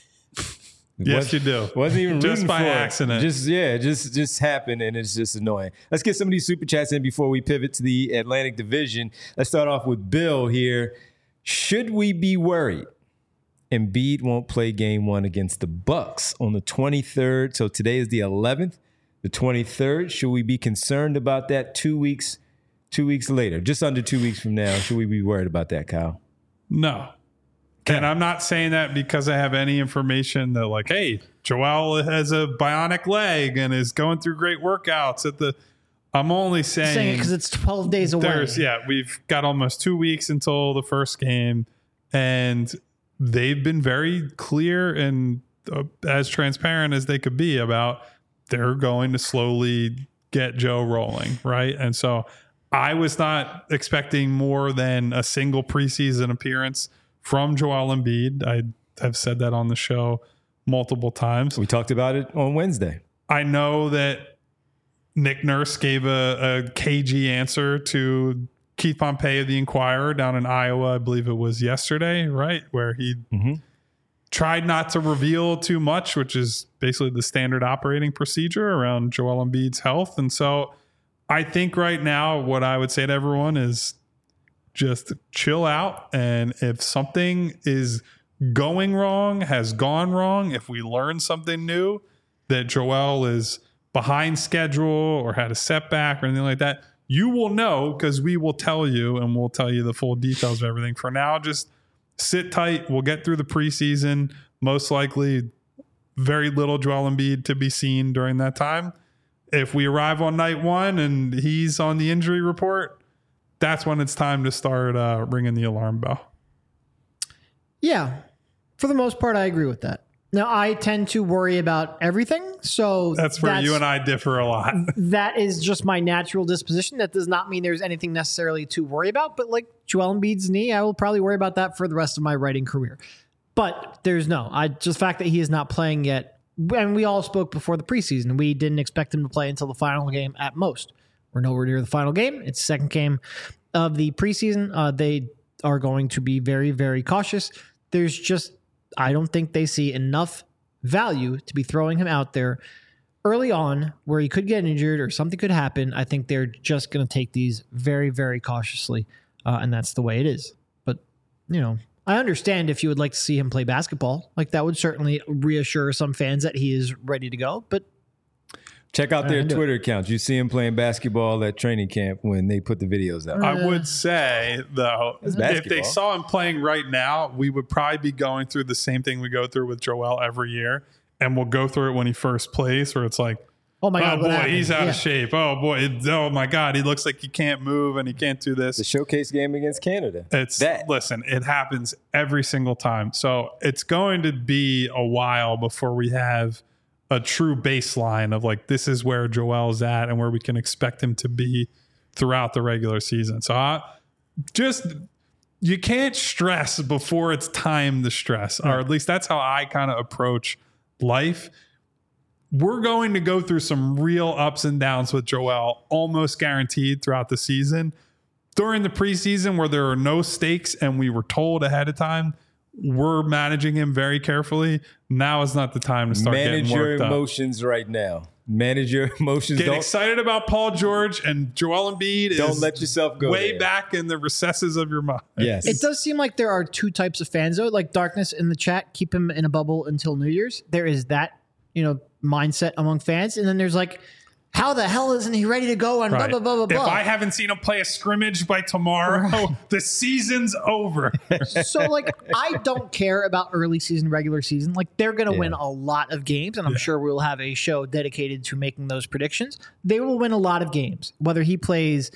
S2: Yes, you do.
S1: Wasn't even
S2: just by
S1: for it.
S2: accident.
S1: Just happened, and it's just annoying. Let's get some of these super chats in before we pivot to the Atlantic Division. Let's start off with Bill here. Should we be worried Embiid won't play game 1 against the Bucks on the 23rd? So today is the 11th, the 23rd. Should we be concerned about that 2 weeks later, just under 2 weeks from now? Should we be worried about that, Kyle?
S2: No. And I'm not saying that because I have any information that like, hey, Joel has a bionic leg and is going through great workouts I'm only saying
S3: it because it's 12 days away.
S2: We've got almost 2 weeks until the first game, and they've been very clear and as transparent as they could be about they're going to slowly get Joe rolling, right? And so I was not expecting more than a single preseason appearance from Joel Embiid. I have said that on the show multiple times.
S1: We talked about it on Wednesday.
S2: I know that Nick Nurse gave a cagey answer to Keith Pompey of the Inquirer down in Iowa. I believe it was yesterday, right? Where he tried not to reveal too much, which is basically the standard operating procedure around Joel Embiid's health. And so I think right now what I would say to everyone is just chill out. And if something is going wrong, has gone wrong, if we learn something new, that Joel is behind schedule or had a setback or anything like that, you will know because we will tell you, and we'll tell you the full details of everything. For now, just sit tight. We'll get through the preseason. Most likely very little Joel Embiid to be seen during that time. If we arrive on night one and he's on the injury report, that's when it's time to start ringing the alarm bell.
S3: Yeah, for the most part, I agree with that. Now, I tend to worry about everything, so
S2: that's where you and I differ a lot.
S3: That is just my natural disposition. That does not mean there's anything necessarily to worry about, but like Joel Embiid's knee, I will probably worry about that for the rest of my writing career. But there's just the fact that he is not playing yet, and we all spoke before the preseason. We didn't expect him to play until the final game at most. We're nowhere near the final game. It's the second game of the preseason. They are going to be very, very cautious. I don't think they see enough value to be throwing him out there early on where he could get injured or something could happen. I think they're just going to take these very, very cautiously, and that's the way it is. But, I understand if you would like to see him play basketball. Like, that would certainly reassure some fans that he is ready to go. But
S1: check out their Twitter accounts. You see him playing basketball at training camp when they put the videos out.
S2: I would say, though, if they saw him playing right now, we would probably be going through the same thing we go through with Joel every year. And we'll go through it when he first plays, where it's like, oh my God, boy, he's out of shape. Oh boy, oh my God, he looks like he can't move and he can't do this.
S1: The showcase game against Canada.
S2: Listen, it happens every single time. So it's going to be a while before we have a true baseline of like, this is where Joel's at and where we can expect him to be throughout the regular season. So you can't stress before it's time to stress, or at least that's how I kind of approach life. We're going to go through some real ups and downs with Joel, almost guaranteed throughout the season. During the preseason, where there are no stakes and we were told ahead of time, we're managing him very carefully. Now is not the time to start getting worked up.
S1: Manage your emotions right now. Manage your emotions.
S2: Get excited about Paul George and Joel Embiid.
S1: Don't let yourself go
S2: way
S1: there.
S2: Back in the recesses of your mind.
S1: Yes.
S3: It does seem like there are two types of fans, though. Like Darkness in the chat, keep him in a bubble until New Year's. There is that, mindset among fans. And then there's like, how the hell isn't he ready to go on blah, blah, blah, blah, blah.
S2: If I haven't seen him play a scrimmage by tomorrow, the season's over.
S3: So, like, I don't care about early season, regular season. Like, they're going to win a lot of games, and I'm sure we'll have a show dedicated to making those predictions. They will win a lot of games. Whether he plays,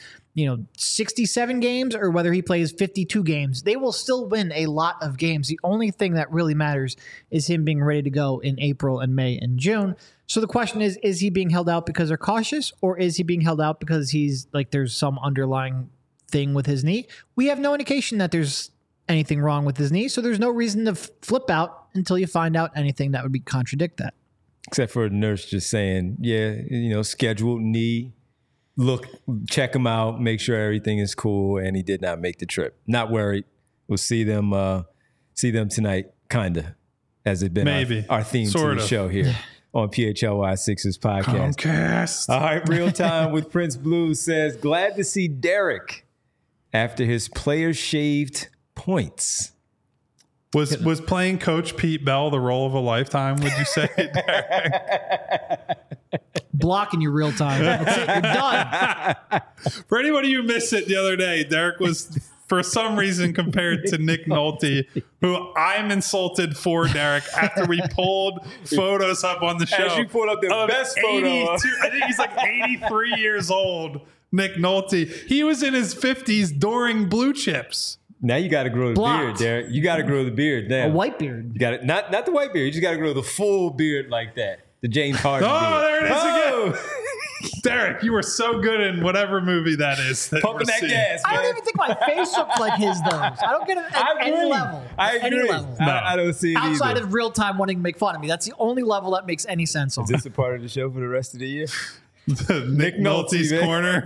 S3: 67 games or whether he plays 52 games, they will still win a lot of games. The only thing that really matters is him being ready to go in April and May and June. So the question is he being held out because they're cautious, or is he being held out because he's like, there's some underlying thing with his knee? We have no indication that there's anything wrong with his knee, so there's no reason to flip out until you find out anything that would contradict that.
S1: Except for the nurse just saying, scheduled knee, look, check him out, make sure everything is cool, and he did not make the trip. Not worried. We'll see them tonight, kinda, as it been
S2: maybe
S1: our theme
S2: sort
S1: to the
S2: of
S1: show here on PHLY Sixers podcast.
S2: Comcast.
S1: All right, Real Time with Prince Blue says, glad to see Derek after his player shaved points.
S2: Was playing Coach Pete Bell the role of a lifetime, would you say, Derek?
S3: Blocking you real time. That's it. You're done.
S2: For anybody who missed it the other day, Derek was, for some reason, compared to Nick Nolte, who I'm insulted for, Derek, after we pulled photos up on the show.
S1: As you pulled up the best photo.
S2: I think he's like 83 years old, Nick Nolte. He was in his 50s during Blue Chips.
S1: Now you got to grow the beard, Derek. You got to grow the beard now.
S3: A white beard.
S1: You got it. Not the white beard. You just got to grow the full beard like that. The James Harden beard.
S2: There it is again. Derek, you were so good in whatever movie that is.
S1: Pumping that gas, man.
S3: I don't even think my face looks like his, though. I don't get it at any level.
S1: I agree.
S3: Any level.
S1: No. I don't see it
S3: outside
S1: either.
S3: of Real Time wanting to make fun of me. That's the only level that makes any sense on.
S1: Is this a part of the show for the rest of the year?
S2: Nick Nolte's
S1: man.
S2: corner.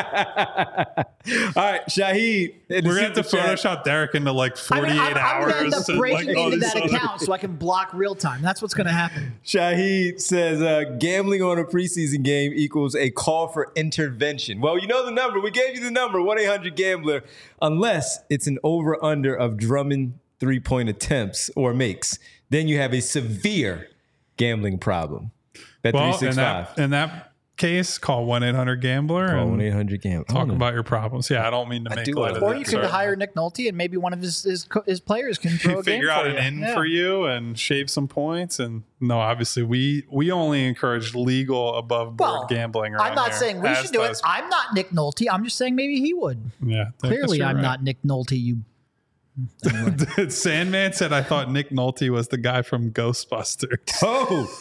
S1: All right, Shaheed.
S2: We're going to have to Photoshop Derek into like 48
S3: I'm
S2: hours.
S3: going to end up
S2: and,
S3: breaking
S2: all
S3: into
S2: this
S3: that
S2: other-
S3: account so I can block real time. That's what's going to happen.
S1: Shaheed says gambling on a preseason game equals a call for intervention. Well, you know the number. We gave you the number, 1-800-GAMBLER, unless it's an over-under of Drummond three-point attempts or makes. Then you have a severe gambling problem. Bet
S2: Well,
S1: 365.
S2: in that case, call 1-800-GAMBLER
S1: Call
S2: and
S1: 1-800-GAMBLER.
S2: talk about your problems. Yeah, I don't mean to make
S1: do
S2: light
S1: wanna-
S2: of
S3: Or
S2: it.
S3: you could
S2: Sorry.
S3: hire Nick Nolte and maybe one of his players can throw a game
S2: Figure out
S3: for
S2: an
S3: you.
S2: in
S3: Yeah.
S2: for you and shave some points. And no, obviously we only encourage legal above board
S3: Well,
S2: gambling.
S3: I'm
S2: around
S3: not
S2: here,
S3: saying we
S2: as
S3: should do it.
S2: does-
S3: I'm not Nick Nolte. I'm just saying maybe he would.
S2: Yeah, I guess
S3: Clearly,
S2: you're
S3: I'm
S2: right.
S3: not Nick Nolte. You.
S2: Sandman said, I thought Nick Nolte was the guy from Ghostbusters.
S1: Oh,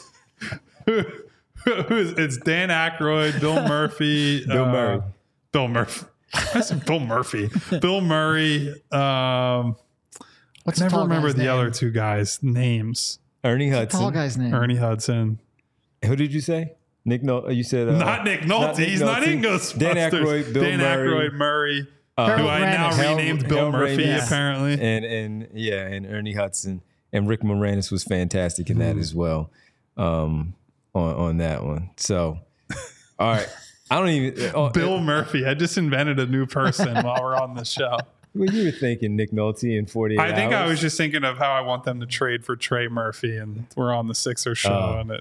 S2: It's Dan Aykroyd, Bill Murphy.
S1: Bill Murray.
S2: Bill Murphy. I said Bill Murphy. Bill Murray.
S3: What's
S2: I
S3: the
S2: never
S3: tall
S2: remember
S3: guy's
S2: the
S3: name?
S2: other two guys' names.
S1: Ernie
S3: Tall
S1: Hudson.
S3: guy's name.
S2: Ernie Hudson.
S1: Who did you say? Nick Nolte. You said
S2: Not Nick Nolte. He's not in Ghostbusters.
S1: Dan Aykroyd, Bill
S2: Dan
S1: Murray.
S2: Aykroyd, Murray.
S3: Harold
S2: Who I now
S3: Ramis.
S2: renamed Bill
S1: Harold
S2: Murphy,
S1: Ramis.
S2: apparently.
S1: and Ernie Hudson and Rick Moranis was fantastic in that as well. On that one. So, all right. I don't even.
S2: Bill Murphy. I just invented a new person while we're on the show.
S1: Well, you were thinking Nick Nolte in 48
S2: I think
S1: hours.
S2: I was just thinking of how I want them to trade for Trey Murphy, and we're on the Sixers show. And it,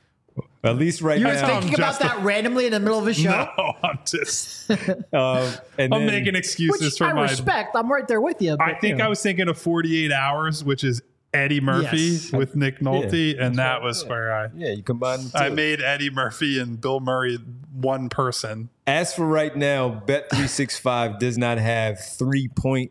S1: At least right
S3: You were
S1: now.
S3: thinking about that randomly in the middle of a show,
S2: no, I'm just
S1: And
S2: I'm
S1: then-
S2: making excuses
S3: which
S2: for
S3: I
S2: my.
S3: respect. I'm right there with you.
S2: I think I was thinking of 48 Hours, which is Eddie Murphy
S3: Yes.
S2: with Nick Nolte,
S1: Yeah,
S2: and that was where
S1: Yeah, you combine the
S2: I
S1: two.
S2: made Eddie Murphy and Bill Murray one person.
S1: As for right now, Bet365 does not have 3-point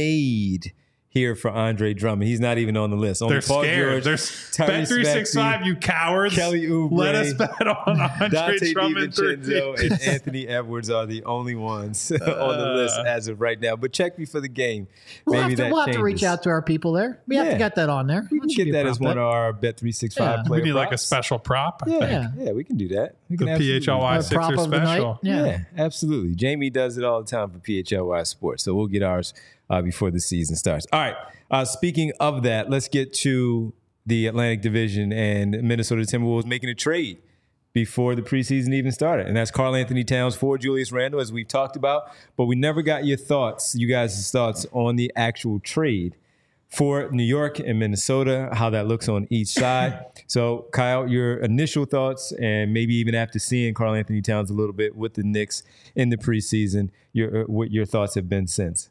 S1: made here for Andre Drummond. He's not even on the list. Only
S2: They're
S1: Paul
S2: scared.
S1: George,
S2: They're
S1: Tyrese
S2: Bet365,
S1: Maxey,
S2: you cowards.
S1: Kelly Oubre,
S2: Let us bet on Andre
S1: Dante
S2: Drummond
S1: DiVincenzo,
S2: 3.
S1: and Anthony Edwards are the only ones on the list as of right now. But check me for the game.
S3: we'll
S1: Maybe
S3: have to reach
S1: changes.
S3: out to our people there. We have
S1: Yeah.
S3: to get that on there.
S1: We can get that as one of our Bet365
S3: Yeah.
S1: player
S2: We need like a
S1: props.
S2: special prop, I think.
S3: Yeah.
S1: Yeah, we can do that. We
S2: The
S1: can absolutely do
S2: PHLY
S1: that.
S3: Prop
S2: Sixer
S3: of the night.
S2: special.
S3: Yeah.
S1: Absolutely. Jamie does it all the time for PHLY Sports. So we'll get ours before the season starts. All right. Speaking of that, let's get to the Atlantic Division and Minnesota Timberwolves making a trade before the preseason even started. And that's Karl Anthony Towns for Julius Randle, as we've talked about. But we never got your thoughts, you guys' thoughts on the actual trade for New York and Minnesota, how that looks on each side. So, Kyle, your initial thoughts, and maybe even after seeing Karl Anthony Towns a little bit with the Knicks in the preseason, what your thoughts have been since.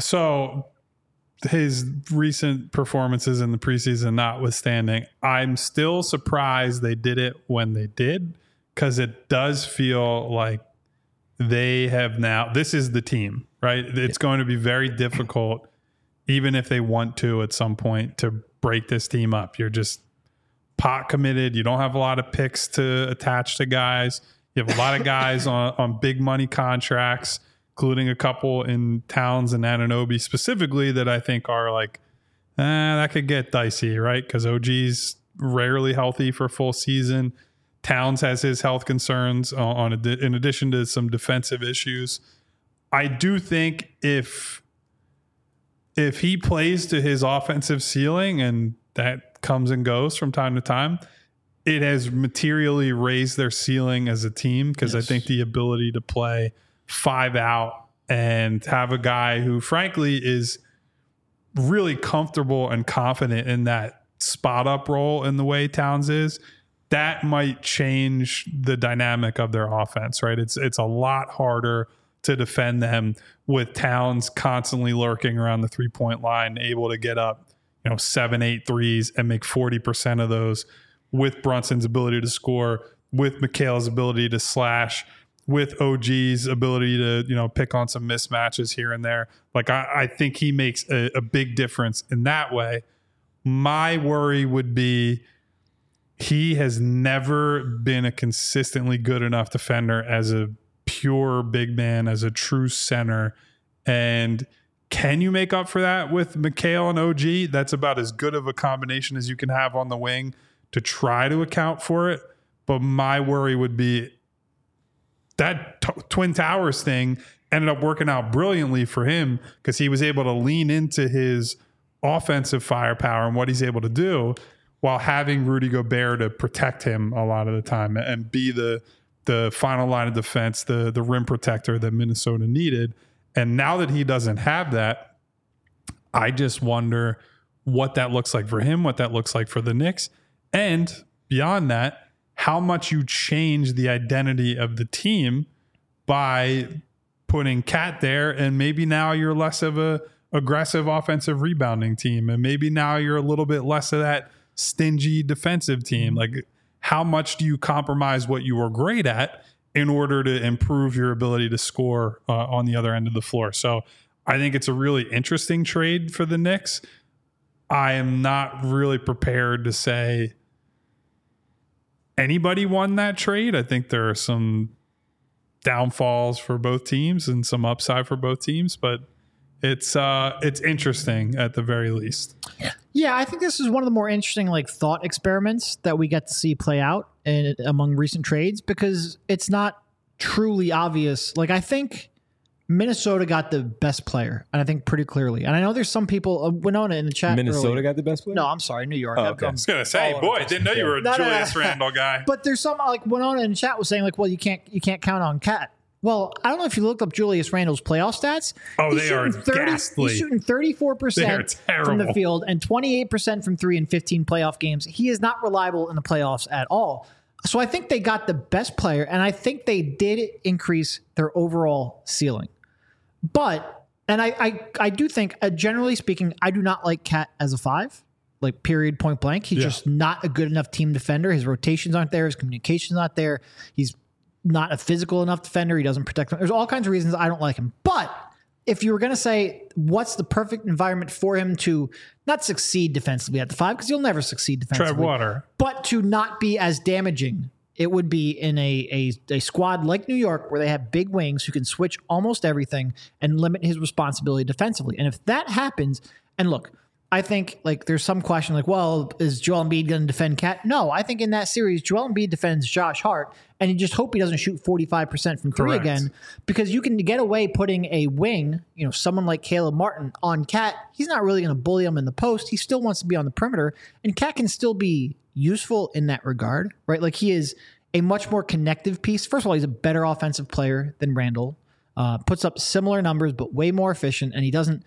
S2: So his recent performances in the preseason notwithstanding, I'm still surprised they did it when they did, because it does feel like they have now, this is the team, right? It's going to be very difficult, even if they want to at some point, to break this team up. You're just pot committed. You don't have a lot of picks to attach to guys. You have a lot of guys on big money contracts, including a couple in Towns and Anunoby specifically that I think are like, that could get dicey, right? Because OG's rarely healthy for a full season. Towns has his health concerns in addition to some defensive issues. I do think if he plays to his offensive ceiling, and that comes and goes from time to time, it has materially raised their ceiling as a team, because I think the ability to play 5 out and have a guy who frankly is really comfortable and confident in that spot up role in the way Towns is, that might change the dynamic of their offense, right? It's a lot harder to defend them with Towns constantly lurking around the 3-point line, able to get up, 7-8 threes and make 40% of those, with Brunson's ability to score, with Mikhail's ability to slash, with OG's ability to, pick on some mismatches here and there. Like, I think he makes a big difference in that way. My worry would be he has never been a consistently good enough defender as a pure big man, as a true center. And can you make up for that with Mikhail and OG? That's about as good of a combination as you can have on the wing to try to account for it. But my worry would be that Twin Towers thing ended up working out brilliantly for him because he was able to lean into his offensive firepower and what he's able to do while having Rudy Gobert to protect him a lot of the time and be the final line of defense, the rim protector that Minnesota needed. And now that he doesn't have that, I just wonder what that looks like for him, what that looks like for the Knicks. And beyond that, how much you change the identity of the team by putting Cat there. And maybe now you're less of a aggressive offensive rebounding team. And maybe now you're a little bit less of that stingy defensive team. Like, how much do you compromise what you were great at in order to improve your ability to score on the other end of the floor? So I think it's a really interesting trade for the Knicks. I am not really prepared to say anybody won that trade. I think there are some downfalls for both teams and some upside for both teams, but it's interesting at the very least.
S3: Yeah, I think this is one of the more interesting thought experiments that we get to see play out among recent trades, because it's not truly obvious. I think Minnesota got the best player, and I think pretty clearly. And I know there's some people, Winona in the chat.
S1: Minnesota
S3: earlier.
S1: got the best player?
S3: No, I'm sorry, New York.
S1: Oh, okay.
S2: I was going to say, boy, I didn't know you were a Julius Randle guy.
S3: But there's some, Winona in the chat was saying, well, you can't count on Cat. Well, I don't know if you looked up Julius Randle's playoff stats.
S2: Oh, they are ghastly.
S3: He's shooting 34% from the field and 28% from three in 15 playoff games. He is not reliable in the playoffs at all. So I think they got the best player, and I think they did increase their overall ceiling. But, and I do think, generally speaking, I do not like Cat as a 5, period, point blank. He's just not a good enough team defender. His rotations aren't there. His communication's not there. He's not a physical enough defender. He doesn't protect them. There's all kinds of reasons I don't like him. But if you were going to say what's the perfect environment for him to not succeed defensively at the 5, because you'll never succeed defensively.
S2: Trev Water.
S3: But to not be as damaging, it would be in a squad like New York where they have big wings who can switch almost everything and limit his responsibility defensively. And if that happens, and look, I think there's some question well, is Joel Embiid going to defend Cat? No, I think in that series, Joel Embiid defends Josh Hart, and you just hope he doesn't shoot 45% from three again, because you can get away putting a wing, someone like Caleb Martin on Cat. He's not really going to bully him in the post. He still wants to be on the perimeter, and Cat can still be useful in that regard, right? He is a much more connective piece. First of all, he's a better offensive player than Randle, puts up similar numbers, but way more efficient, and he doesn't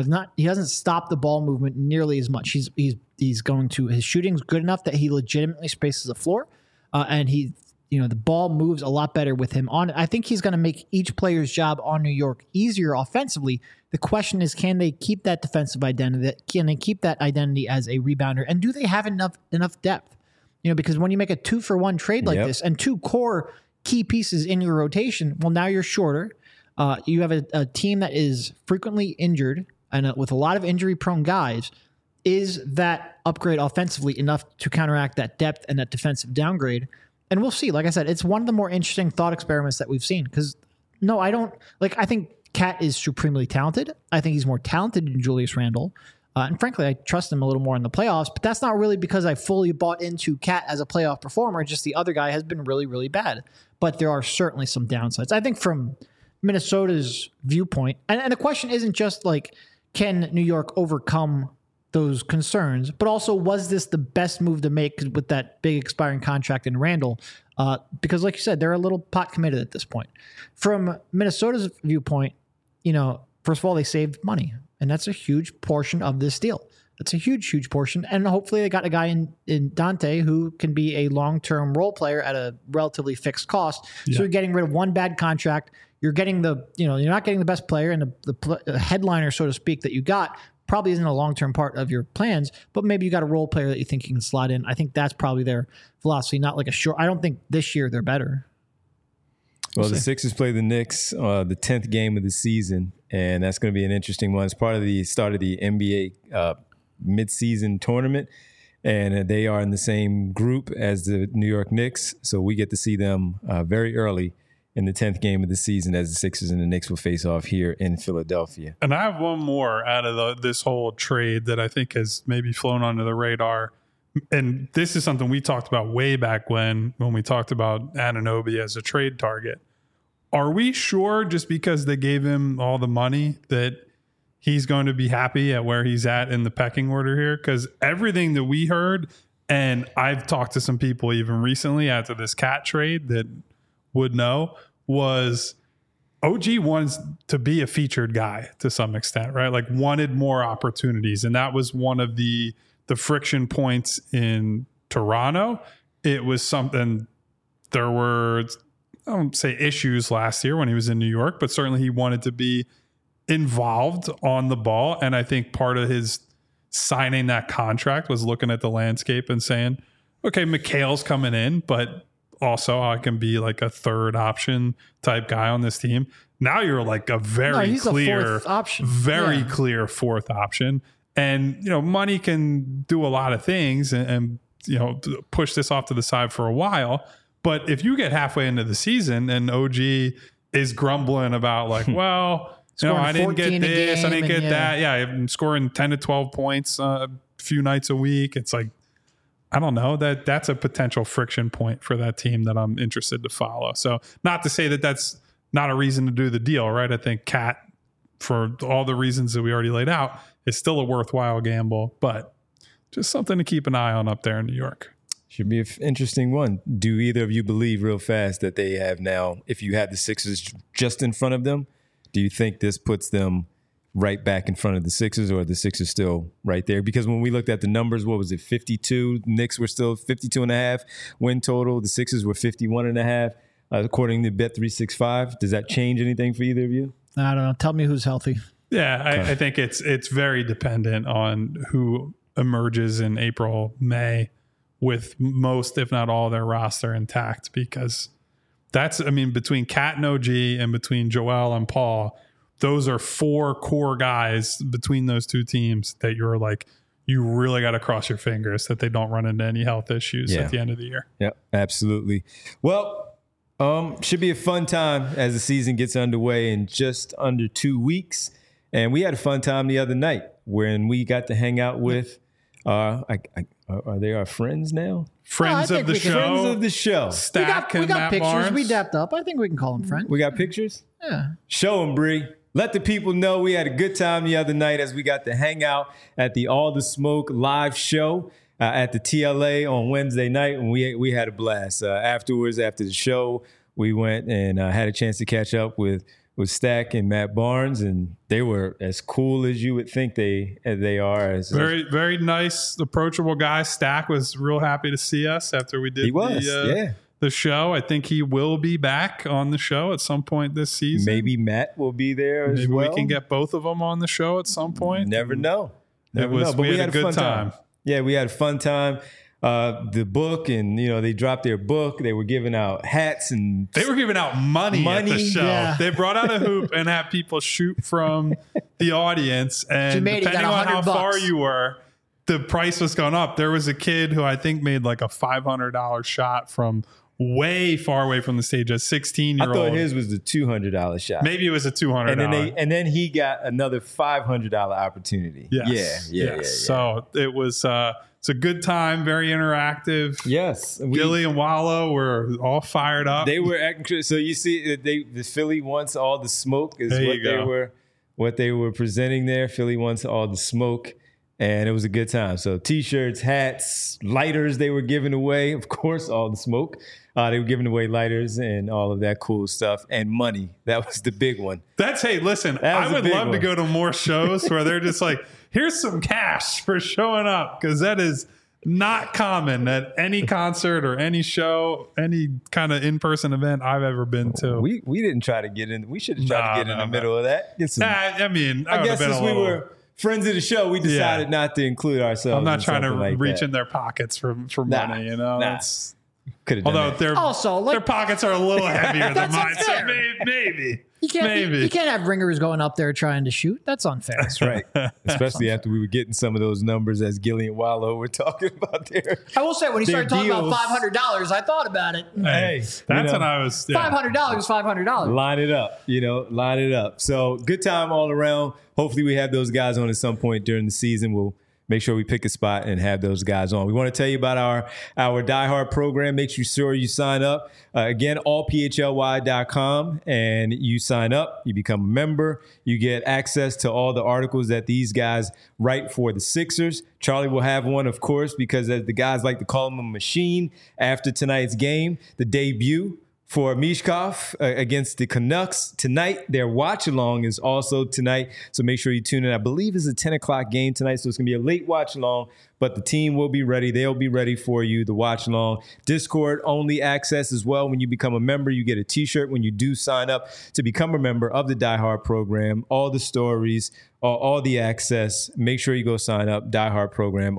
S3: stop the ball movement nearly as much. His shooting's good enough that he legitimately spaces the floor, and the ball moves a lot better with him on it. I think he's going to make each player's job on New York easier offensively. The question is, can they keep that defensive identity? Can they keep that identity as a rebounder? And do they have enough depth? Because when you make a 2-for-1 trade like this and 2 core key pieces in your rotation, well, now you're shorter. You have a team that is frequently injured and with a lot of injury-prone guys. Is that upgrade offensively enough to counteract that depth and that defensive downgrade? And we'll see. Like I said, it's one of the more interesting thought experiments that we've seen. Because, no, I don't... I think Cat is supremely talented. I think he's more talented than Julius Randle. And frankly, I trust him a little more in the playoffs. But that's not really because I fully bought into Cat as a playoff performer. Just the other guy has been really, really bad. But there are certainly some downsides. I think from Minnesota's viewpoint, and the question isn't just can New York overcome those concerns, but also, was this the best move to make with that big expiring contract in Randle? Because like you said, they're a little pot committed at this point. From Minnesota's viewpoint, first of all, they saved money, and that's a huge portion of this deal. That's a huge, huge portion. And hopefully they got a guy in Dante who can be a long-term role player at a relatively fixed cost. Yeah. So you're getting rid of one bad contract. You're getting you're not getting the best player, and the headliner, so to speak, that you got probably isn't a long-term part of your plans, but maybe you got a role player that you think you can slot in. I think that's probably their philosophy, not a short. I don't think this year they're better.
S1: Well, the Sixers play the Knicks, the 10th game of the season, and that's going to be an interesting one. It's part of the start of the NBA midseason tournament, and they are in the same group as the New York Knicks, so we get to see them very early in the 10th game of the season as the Sixers and the Knicks will face off here in Philadelphia.
S2: And I have one more out of this whole trade that I think has maybe flown under the radar. And this is something we talked about way back when we talked about Anunoby as a trade target. are we sure just because they gave him all the money that he's going to be happy at where he's at in the pecking order here? Because everything that we heard, and I've talked to some people even recently after this Cat trade that would know, was OG wants to be a featured guy to some extent, right? Like wanted more opportunities. And that was one of the friction points in Toronto. It was something, there were, I won't say issues last year when he was in New York, but certainly he wanted to be involved on the ball. And I think part of his signing that contract was looking at the landscape and saying, okay, Mikhail's coming in, but also I can be like a third option type guy on this team. Now you're like a very clear, very clear fourth option. And, you know, money can do a lot of things and, you know, push this off to the side for a while. But if you get halfway into the season and OG is grumbling about like, well, you know, I didn't get this, I didn't get that. Yeah, I'm scoring 10 to 12 points a few nights a week. It's like, I don't know, that's a potential friction point for that team that I'm interested to follow. So not to say that that's not a reason to do the deal, right? I think Cat, for all the reasons that we already laid out, is still a worthwhile gamble, but just something to keep an eye on up there in New York.
S1: Should be an interesting one. Do either of you believe real fast that they have now, if you had the Sixers just in front of them, do you think this puts them right back in front of the Sixers, or are the Sixers still right there? Because when we looked at the numbers, what was it, 52? Knicks were still 52.5 win total. The Sixers were 51.5, according to Bet365. Does that change anything for either of you?
S3: I don't know. Tell me who's healthy.
S2: Yeah, I think it's very dependent on who emerges in April, May with most, if not all, their roster intact, because that's, I mean, between Cat and OG and between Joel and Paul, those are four core guys between those two teams that you're like, you really got to cross your fingers that they don't run into any health issues at the end of the year.
S1: Yeah, absolutely. Well, should be a fun time as the season gets underway in just under 2 weeks. And we had a fun time the other night when we got to hang out with, are they our friends now?
S2: Friends of the show.
S1: Friends of the show.
S2: Stack
S3: we got
S2: Matt
S3: pictures.
S2: Barnes.
S3: We dapped up. I think we can call them friends.
S1: We got pictures?
S3: Yeah.
S1: Show them, Bree. Let the people know we had a good time the other night as we got to hang out at the All the Smoke live show at the TLA on Wednesday night, and we had a blast. Afterwards, after the show, we went and had a chance to catch up with Stack and Matt Barnes, and they were as cool as you would think they are.
S2: Very, very nice, approachable guy. Stack was real happy to see us after we did the show. I think he will be back on the show at some point this season.
S1: Maybe Matt will be there as
S2: Maybe
S1: well.
S2: we can get both of them on the show at some point.
S1: Never know.
S2: But we had a good time.
S1: Yeah, we had a fun time. The book, and they dropped their book. They were giving out hats, and
S2: they were giving out money at the show. Yeah. They brought out a hoop and had people shoot from the audience, and depending on how far you were, the price was going up. There was a kid who I think made like a $500 shot from way far away from the stage, a 16-year-old.
S1: I thought his was the $200 shot.
S2: Maybe it was a $200.
S1: And then he got another $500 opportunity.
S2: Yes.
S1: Yeah.
S2: So it was it's a good time, very interactive.
S1: Yes.
S2: Gilly and Wallow were all fired up.
S1: They were acting. So you see, the Philly wants all the smoke is what they were presenting there. Philly wants all the smoke. And it was a good time. So T-shirts, hats, lighters they were giving away. Of course, all the smoke. They were giving away lighters and all of that cool stuff. And money. That was the big one.
S2: Hey, listen, I would love to go to more shows where they're just like, here's some cash for showing up. Because that is not common at any concert or any show, any kind of in-person event I've ever been to.
S1: We didn't try to get in. We should have tried to get in the middle of that.
S2: I
S1: guess since we were friends of the show, we decided not to include ourselves.
S2: I'm not trying to reach in their pockets for money, That's although their pockets are a little heavier than mine, so maybe.
S3: You can't have ringers going up there trying to shoot. That's unfair.
S1: That's right. Especially after we were getting some of those numbers as Gilly and Wallow were talking about there.
S3: I will say, when he started talking about $500, I thought about it.
S2: Hey, that's when I was
S3: $500 is $500.
S1: Line it up. So good time all around. Hopefully we have those guys on at some point during the season. We'll make sure we pick a spot and have those guys on. We want to tell you about our Die Hard program. Make sure you sign up. Again, allphly.com, and you sign up. You become a member. You get access to all the articles that these guys write for the Sixers. Charlie will have one, of course, because as the guys like to call him, a machine after tonight's game, the debut for Mishkov against the Canucks tonight. Their watch along is also tonight, so make sure you tune in. I believe it's a 10 o'clock game tonight, so it's going to be a late watch along, but the team will be ready. They'll be ready for you, the watch along. Discord only access as well. When you become a member, you get a t-shirt when you do sign up to become a member of the Die Hard program. All the stories, all the access. Make sure you go sign up. Die Hard program,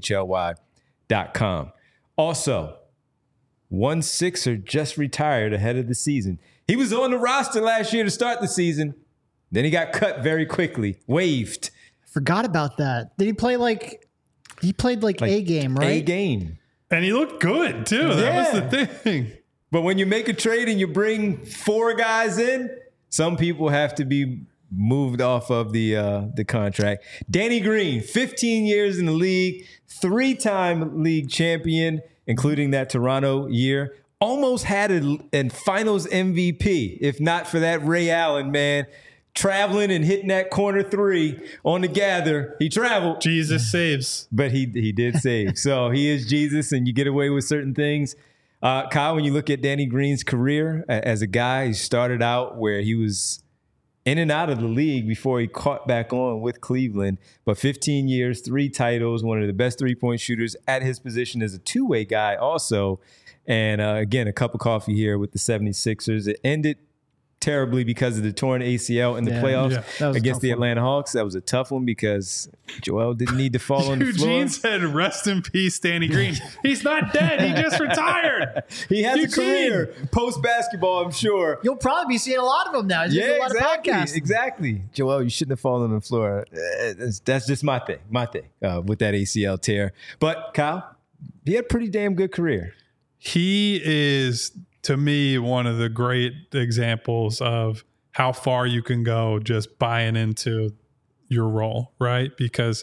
S1: allphly.com. Also, one Sixer just retired ahead of the season. He was on the roster last year to start the season. Then he got cut very quickly, waived.
S3: Forgot about that. Did he play he played a game, right?
S1: A game.
S2: And he looked good, too. That was the thing.
S1: But when you make a trade and you bring 4 guys in, some people have to be moved off of the contract. Danny Green, 15 years in the league, 3-time league champion, including that Toronto year. Almost had a finals MVP, if not for that Ray Allen, man. Traveling and hitting that corner 3 on the gather. He traveled.
S2: Jesus saves.
S1: But he did save. So he is Jesus, and you get away with certain things. Kyle, when you look at Danny Green's career as a guy, he started out where he was in and out of the league before he caught back on with Cleveland. But 15 years, 3 titles, one of the best three-point shooters at his position as a two-way guy also. And again, a cup of coffee here with the 76ers. It ended terribly because of the torn ACL in the playoffs against the Atlanta Hawks. That was a tough one because Joel didn't need to fall on the floor.
S2: Eugene said, rest in peace, Danny Green. He's not dead. He just retired.
S1: He has a career post-basketball, I'm sure.
S3: You'll probably be seeing a lot of them now. He's doing a lot of podcasts.
S1: Exactly. Joel, you shouldn't have fallen on the floor. That's just my thing with that ACL tear. But Kyle, he had a pretty damn good career.
S2: He is, to me, one of the great examples of how far you can go just buying into your role, right? Because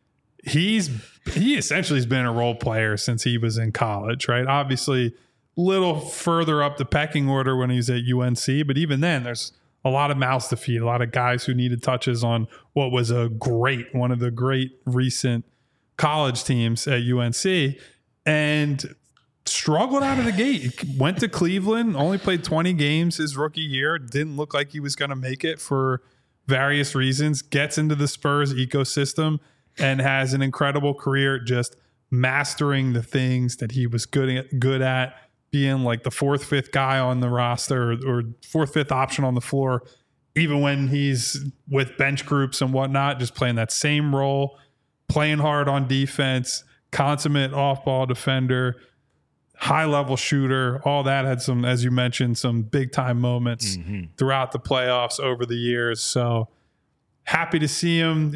S2: he essentially has been a role player since he was in college, right? Obviously, a little further up the pecking order when he was at UNC, but even then, there's a lot of mouths to feed, a lot of guys who needed touches on what was one of the great recent college teams at UNC, and struggled out of the gate. Went to Cleveland, only played 20 games his rookie year. Didn't look like he was going to make it for various reasons. Gets into the Spurs ecosystem and has an incredible career just mastering the things that he was good at, being like the 4th, 5th guy on the roster or 4th, 5th option on the floor, even when he's with bench groups and whatnot, just playing that same role, playing hard on defense, consummate off-ball defender, high-level shooter. All that had some, as you mentioned, some big-time moments throughout the playoffs over the years. So happy to see him,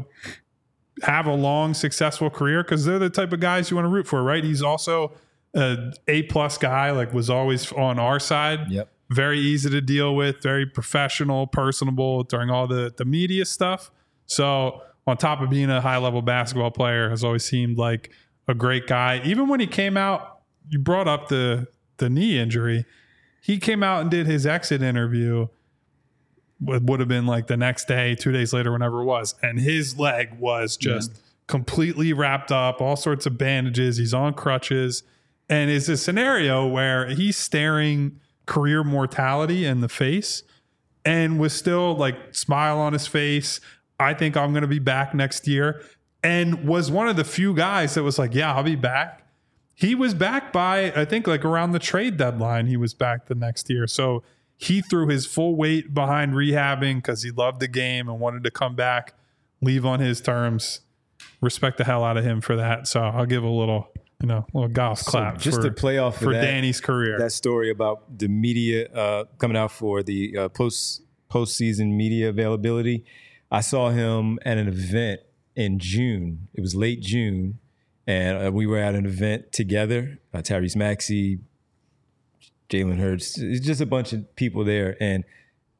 S2: have a long, successful career, because they're the type of guys you want to root for, right? He's also an A-plus guy, was always on our side.
S1: Yep.
S2: Very easy to deal with, very professional, personable during all the media stuff. So on top of being a high-level basketball player, has always seemed like a great guy. Even when he came out, you brought up the knee injury. He came out and did his exit interview. It would have been like the next day, 2 days later, whenever it was. And his leg was just completely wrapped up, all sorts of bandages. He's on crutches. And it's a scenario where he's staring career mortality in the face and was still smile on his face. I think I'm going to be back next year. And was one of the few guys that was like, yeah, I'll be back. He was back by, I think, around the trade deadline, he was back the next year. So he threw his full weight behind rehabbing because he loved the game and wanted to come back, leave on his terms. Respect the hell out of him for that. So I'll give a little golf clap
S1: just to play off
S2: for Danny's career.
S1: That story about the media coming out for the postseason media availability. I saw him at an event in June. It was late June. And we were at an event together, Tyrese Maxey, Jalen Hurts, it's just a bunch of people there. And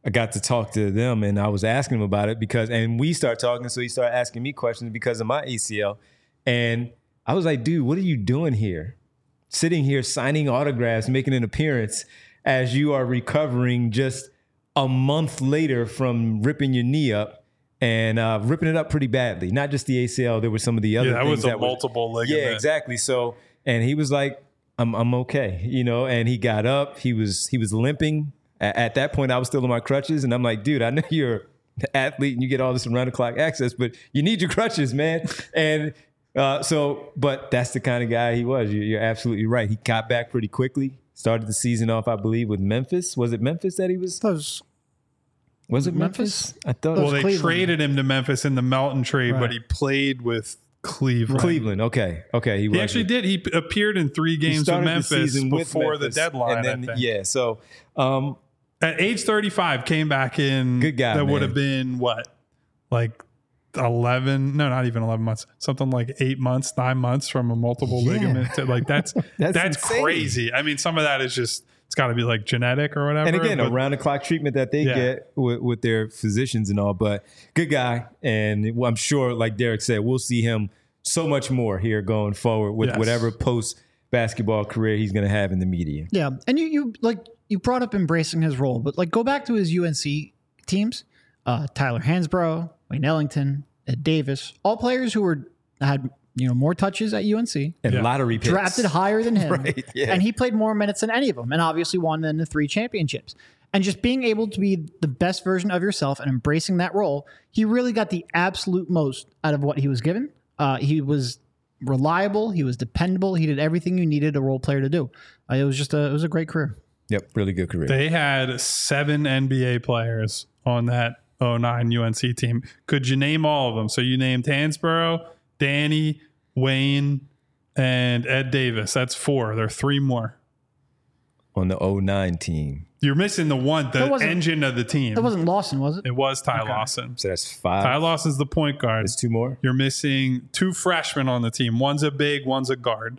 S1: I got to talk to them, and I was asking him about it and we start talking, so he started asking me questions because of my ACL. And I was like, dude, what are you doing here? Sitting here signing autographs, making an appearance as you are recovering just a month later from ripping your knee up and ripping it up pretty badly. Not just the ACL, there were some of the other things.
S2: That was a multiple ligament.
S1: Yeah, exactly. So, and he was like, I'm okay, and he got up, he was limping. At that point, I was still on my crutches, and I'm like, dude, I know you're an athlete and you get all this around the clock access, but you need your crutches, man. And but that's the kind of guy he was. You're absolutely right. He got back pretty quickly. Started the season off, I believe, with Memphis. Was it Memphis that he was? Was it Memphis? I thought.
S2: Well, they
S3: Cleveland.
S2: traded him to Memphis in the Melton trade, but he played with Cleveland.
S1: Cleveland. Okay.
S2: He actually did. He appeared in 3 games with Memphis before the deadline.
S1: And then, yeah. So
S2: at age 35, came back in.
S1: Good guy.
S2: That would have been what, like 11? No, not even 11 months. Something like 8 months, 9 months from a multiple ligament. Like that's crazy. I mean, some of that is just. It's got to be like genetic or whatever.
S1: And again, around the clock treatment that they get with their physicians and all. But good guy. And I'm sure, like Derek said, we'll see him so much more here going forward with whatever post basketball career he's going to have in the media.
S3: Yeah. And you brought up embracing his role, but like go back to his UNC teams, Tyler Hansbrough, Wayne Ellington, Ed Davis, all players who had more touches at UNC.
S1: And lottery picks.
S3: Drafted higher than him.
S1: Right, yeah.
S3: And he played more minutes than any of them and obviously won then the 3 championships. And just being able to be the best version of yourself and embracing that role, he really got the absolute most out of what he was given. He was reliable. He was dependable. He did everything you needed a role player to do. It was a great career.
S1: Yep, really good career.
S2: They had 7 NBA players on that 09 UNC team. Could you name all of them? So you named Hansbrough, Danny, Wayne, and Ed Davis. That's 4. There are 3 more.
S1: On the 09 team.
S2: You're missing the engine of the team.
S3: That wasn't Lawson, was it?
S2: It was Ty Lawson.
S1: So that's 5.
S2: Ty Lawson's the point guard.
S1: There's 2 more?
S2: You're missing 2 freshmen on the team. One's a big, one's a guard.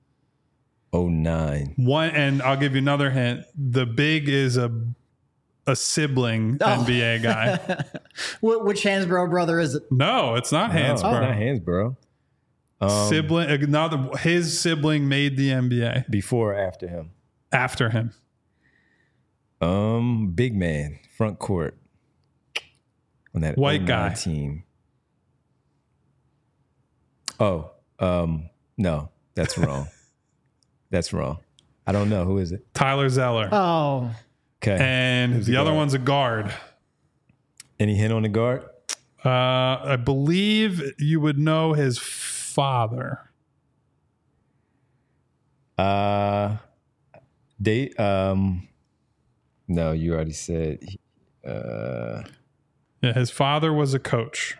S1: 09.
S2: And I'll give you another hint. The big is a sibling NBA guy.
S3: Which Hansbrough brother is it?
S2: No, it's not Hansbrough.
S1: It's not Hansbrough.
S2: Sibling. His sibling made the NBA.
S1: Before or after him?
S2: After him.
S1: Big man, front court on that
S2: white guy
S1: team. Oh, no, that's wrong. That's wrong. I don't know. Who is it?
S2: Tyler Zeller.
S3: Oh.
S1: Okay.
S2: And the other one's a guard.
S1: Any hint on the guard?
S2: I believe you would know his father.
S1: No, you already said.
S2: His father was a coach.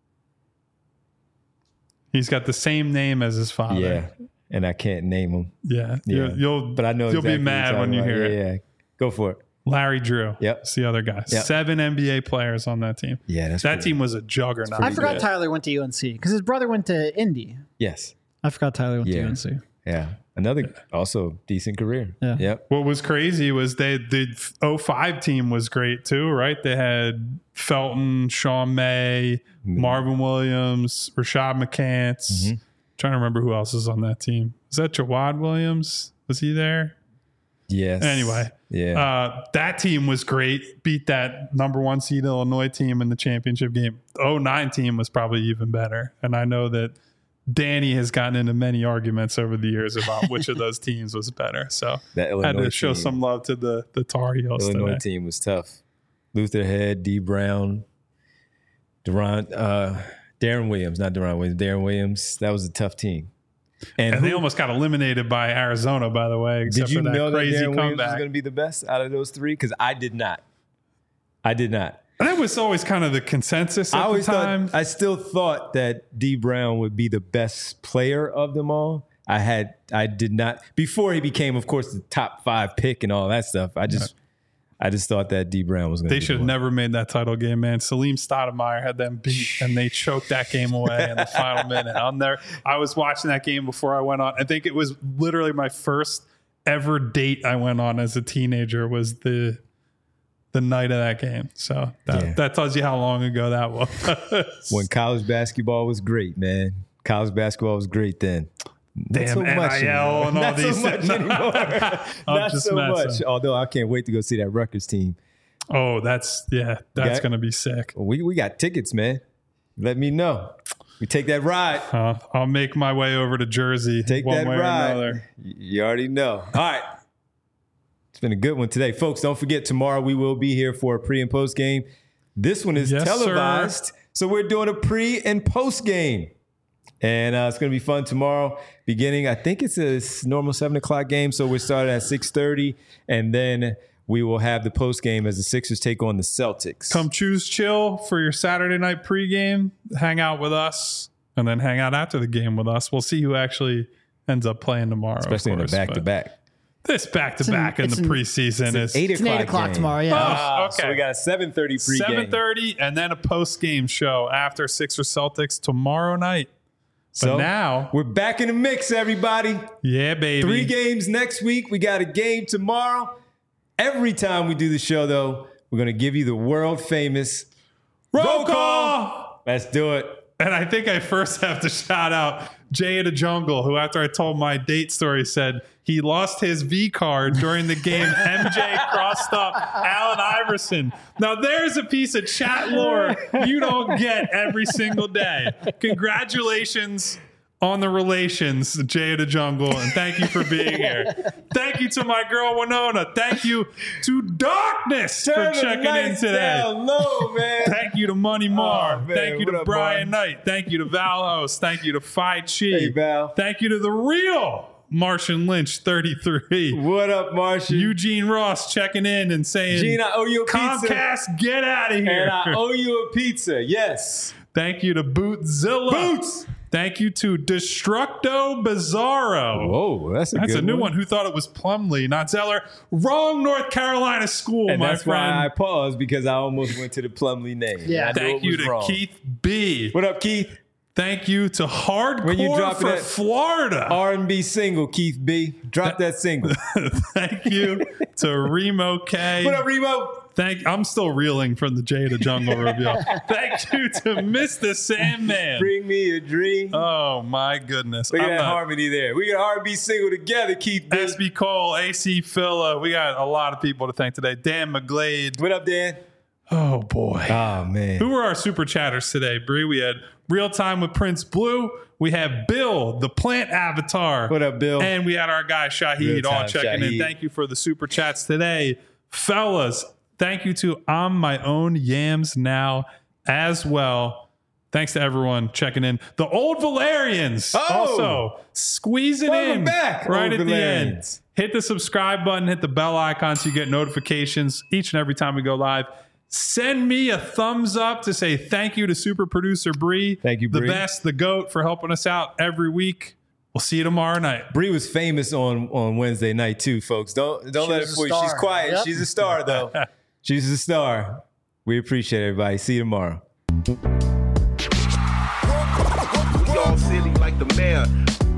S2: He's got the same name as his father.
S1: Yeah, and I can't name him.
S2: Yeah.
S1: But I know
S2: you'll
S1: exactly
S2: be mad when you hear it.
S1: Yeah, go for it.
S2: Larry Drew.
S1: Yep.
S2: It's the other guy.
S1: Yep.
S2: 7 NBA players on that team.
S1: Yeah,
S2: that team was a juggernaut.
S3: I forgot Tyler went to UNC because his brother went to Indy.
S1: Yes.
S3: I forgot Tyler went to UNC.
S1: Yeah. Another also decent career.
S3: Yeah.
S1: Yep.
S2: What was crazy was the 05 team was great too, right? They had Felton, Sean May, Marvin Williams, Rashad McCants. Trying to remember who else is on that team. Is that Jawad Williams? Was he there?
S1: Yes.
S2: Anyway.
S1: Yeah.
S2: That team was great. Beat that number 1 seed Illinois team in the championship game. The 09 team was probably even better. And I know that Danny has gotten into many arguments over the years about which of those teams was better. So I had to show some love to the Tar Heels today.
S1: Illinois team was tough. Luther Head, D. Brown, Darren Williams, not Deron Williams, Darren Williams. That was a tough team.
S2: And they almost got eliminated by Arizona, by the way.
S1: Did you know that
S2: crazy
S1: Darren Williams was
S2: comeback.
S1: going to be the best out of those 3? Because I did not.
S2: That was always kind of the consensus at the time.
S1: I still thought that D. Brown would be the best player of them all. I did not, before he became, of course, the top 5 pick and all that stuff. I just thought that D. Brown was going to be
S2: They should have never made that title game, man. Salim Stoudemire had them beat, and they choked that game away in the final minute. I was watching that game before I went on. I think it was literally my first ever date I went on as a teenager was the the night of that game. So that tells you how long ago that was.
S1: When college basketball was great, man. College basketball was great then.
S2: Damn,
S1: Not so much
S2: NIL
S1: anymore.
S2: and all
S1: Not
S2: these.
S1: so much anymore. Not
S2: just
S1: so much.
S2: messing.
S1: Although I can't wait to go see that Rutgers team.
S2: Oh, that's going to be sick.
S1: We got tickets, man. Let me know. We take that ride.
S2: I'll make my way over to Jersey.
S1: Take
S2: one
S1: that
S2: way or
S1: ride.
S2: another.
S1: You already know. All right. It's been a good one today. Folks, don't forget tomorrow we will be here for a pre and post game. This one is
S2: Yes,
S1: televised.
S2: sir.
S1: So we're doing a pre and post game. And it's going to be fun tomorrow. Beginning, I think it's a normal 7 o'clock game. So we're starting at 6:30. And then we will have the post game as the Sixers take on the Celtics.
S2: Come choose chill for your Saturday night pregame. Hang out with us, and then hang out after the game with us. We'll see who actually ends up playing tomorrow.
S1: Especially in the back-to-back.
S2: This back-to-back in the preseason is
S1: 8
S3: It's an 8 o'clock
S1: game.
S3: tomorrow, yeah.
S2: okay.
S1: So we got a 7:30 pregame.
S2: 7:30, and then a post-game show after Sixers Celtics tomorrow night. But
S1: So
S2: now
S1: we're back in the mix, everybody.
S2: yeah, baby.
S1: 3 games next week. We got a game tomorrow. Every time we do the show, though, we're going to give you the world famous
S2: Roll call!
S1: Let's do it.
S2: And I think I first have to shout out Jay of the Jungle, who after I told my date story said he lost his V card during the game MJ crossed up Allen Iverson. Now there's a piece of chat lore you don't get every single day. Congratulations on the relations, Jay of the Jungle, and thank you for being here. Thank you to my girl Winona. Thank you to Darkness
S1: Turn
S2: for
S1: the
S2: checking in
S1: lights
S2: today.
S1: down low, man.
S2: Thank you to Money Mar.
S1: Oh, man.
S2: Thank you
S1: What
S2: to
S1: up,
S2: Brian
S1: Mar?
S2: Knight. Thank you to Val Host. Thank you to Phi Chi.
S1: Hey, Val.
S2: Thank you to the real Martian Lynch 33.
S1: What up, Martian?
S2: Eugene Ross checking in and saying,
S1: Gene, I owe you a pizza.
S2: Comcast, get out of here.
S1: And I owe you a pizza. Yes.
S2: Thank you to Bootzilla.
S1: Boots.
S2: Thank you to Destructo Bizarro.
S1: Whoa, that's
S2: That's a new one. Who thought it was Plumlee, not Zeller? Wrong North Carolina school,
S1: And
S2: my
S1: that's
S2: friend.
S1: why I paused, because I almost went to the Plumlee name.
S3: Yeah.
S1: I knew
S2: Thank
S1: it
S2: you
S1: was
S2: to
S1: wrong.
S2: Keith B.
S1: What up, Keith?
S2: Thank you to Hardcore
S1: When you drop
S2: for
S1: that
S2: Florida.
S1: R&B single, Keith B. Drop that single.
S2: Thank you to Remo K.
S1: What up, Remo?
S2: I'm still reeling from the Jay of the Jungle reveal. Thank you to Mr. Sandman.
S1: Bring me a dream.
S2: Oh my goodness.
S1: Look at that harmony there. We got an R&B single together, Keith B.
S2: SB Cole, AC Philla. We got a lot of people to thank today. Dan McGlade.
S1: What up, Dan?
S2: Oh boy.
S1: Oh, man.
S2: Who were our super chatters today, Bree? We had Real Time with Prince Blue. We have Bill, the plant avatar.
S1: What up, Bill?
S2: And we had our guy Shahid
S1: Real
S2: all
S1: Time
S2: checking in.
S1: Shahid.
S2: Thank you for the super chats today. Fellas, thank you to I'm My Own Yams Now as well. Thanks to everyone checking in. The Old Valerians also squeezing
S1: Welcome
S2: in
S1: back,
S2: right
S1: Old
S2: at the end.
S1: Valerians.
S2: Hit the subscribe button, hit the bell icon so you get notifications each and every time we go live. Send me a thumbs up to say thank you to super producer Bree.
S1: Thank you,
S2: The
S1: Bree.
S2: best, the GOAT, for helping us out every week. We'll see you tomorrow night.
S1: Bree was famous on Wednesday night too, folks. Don't let it
S3: was a
S1: fool you. She's
S3: star.
S1: quiet.
S3: Yep.
S1: She's a star though. She's a star. We appreciate everybody. See you tomorrow.
S4: We all silly like the mayor.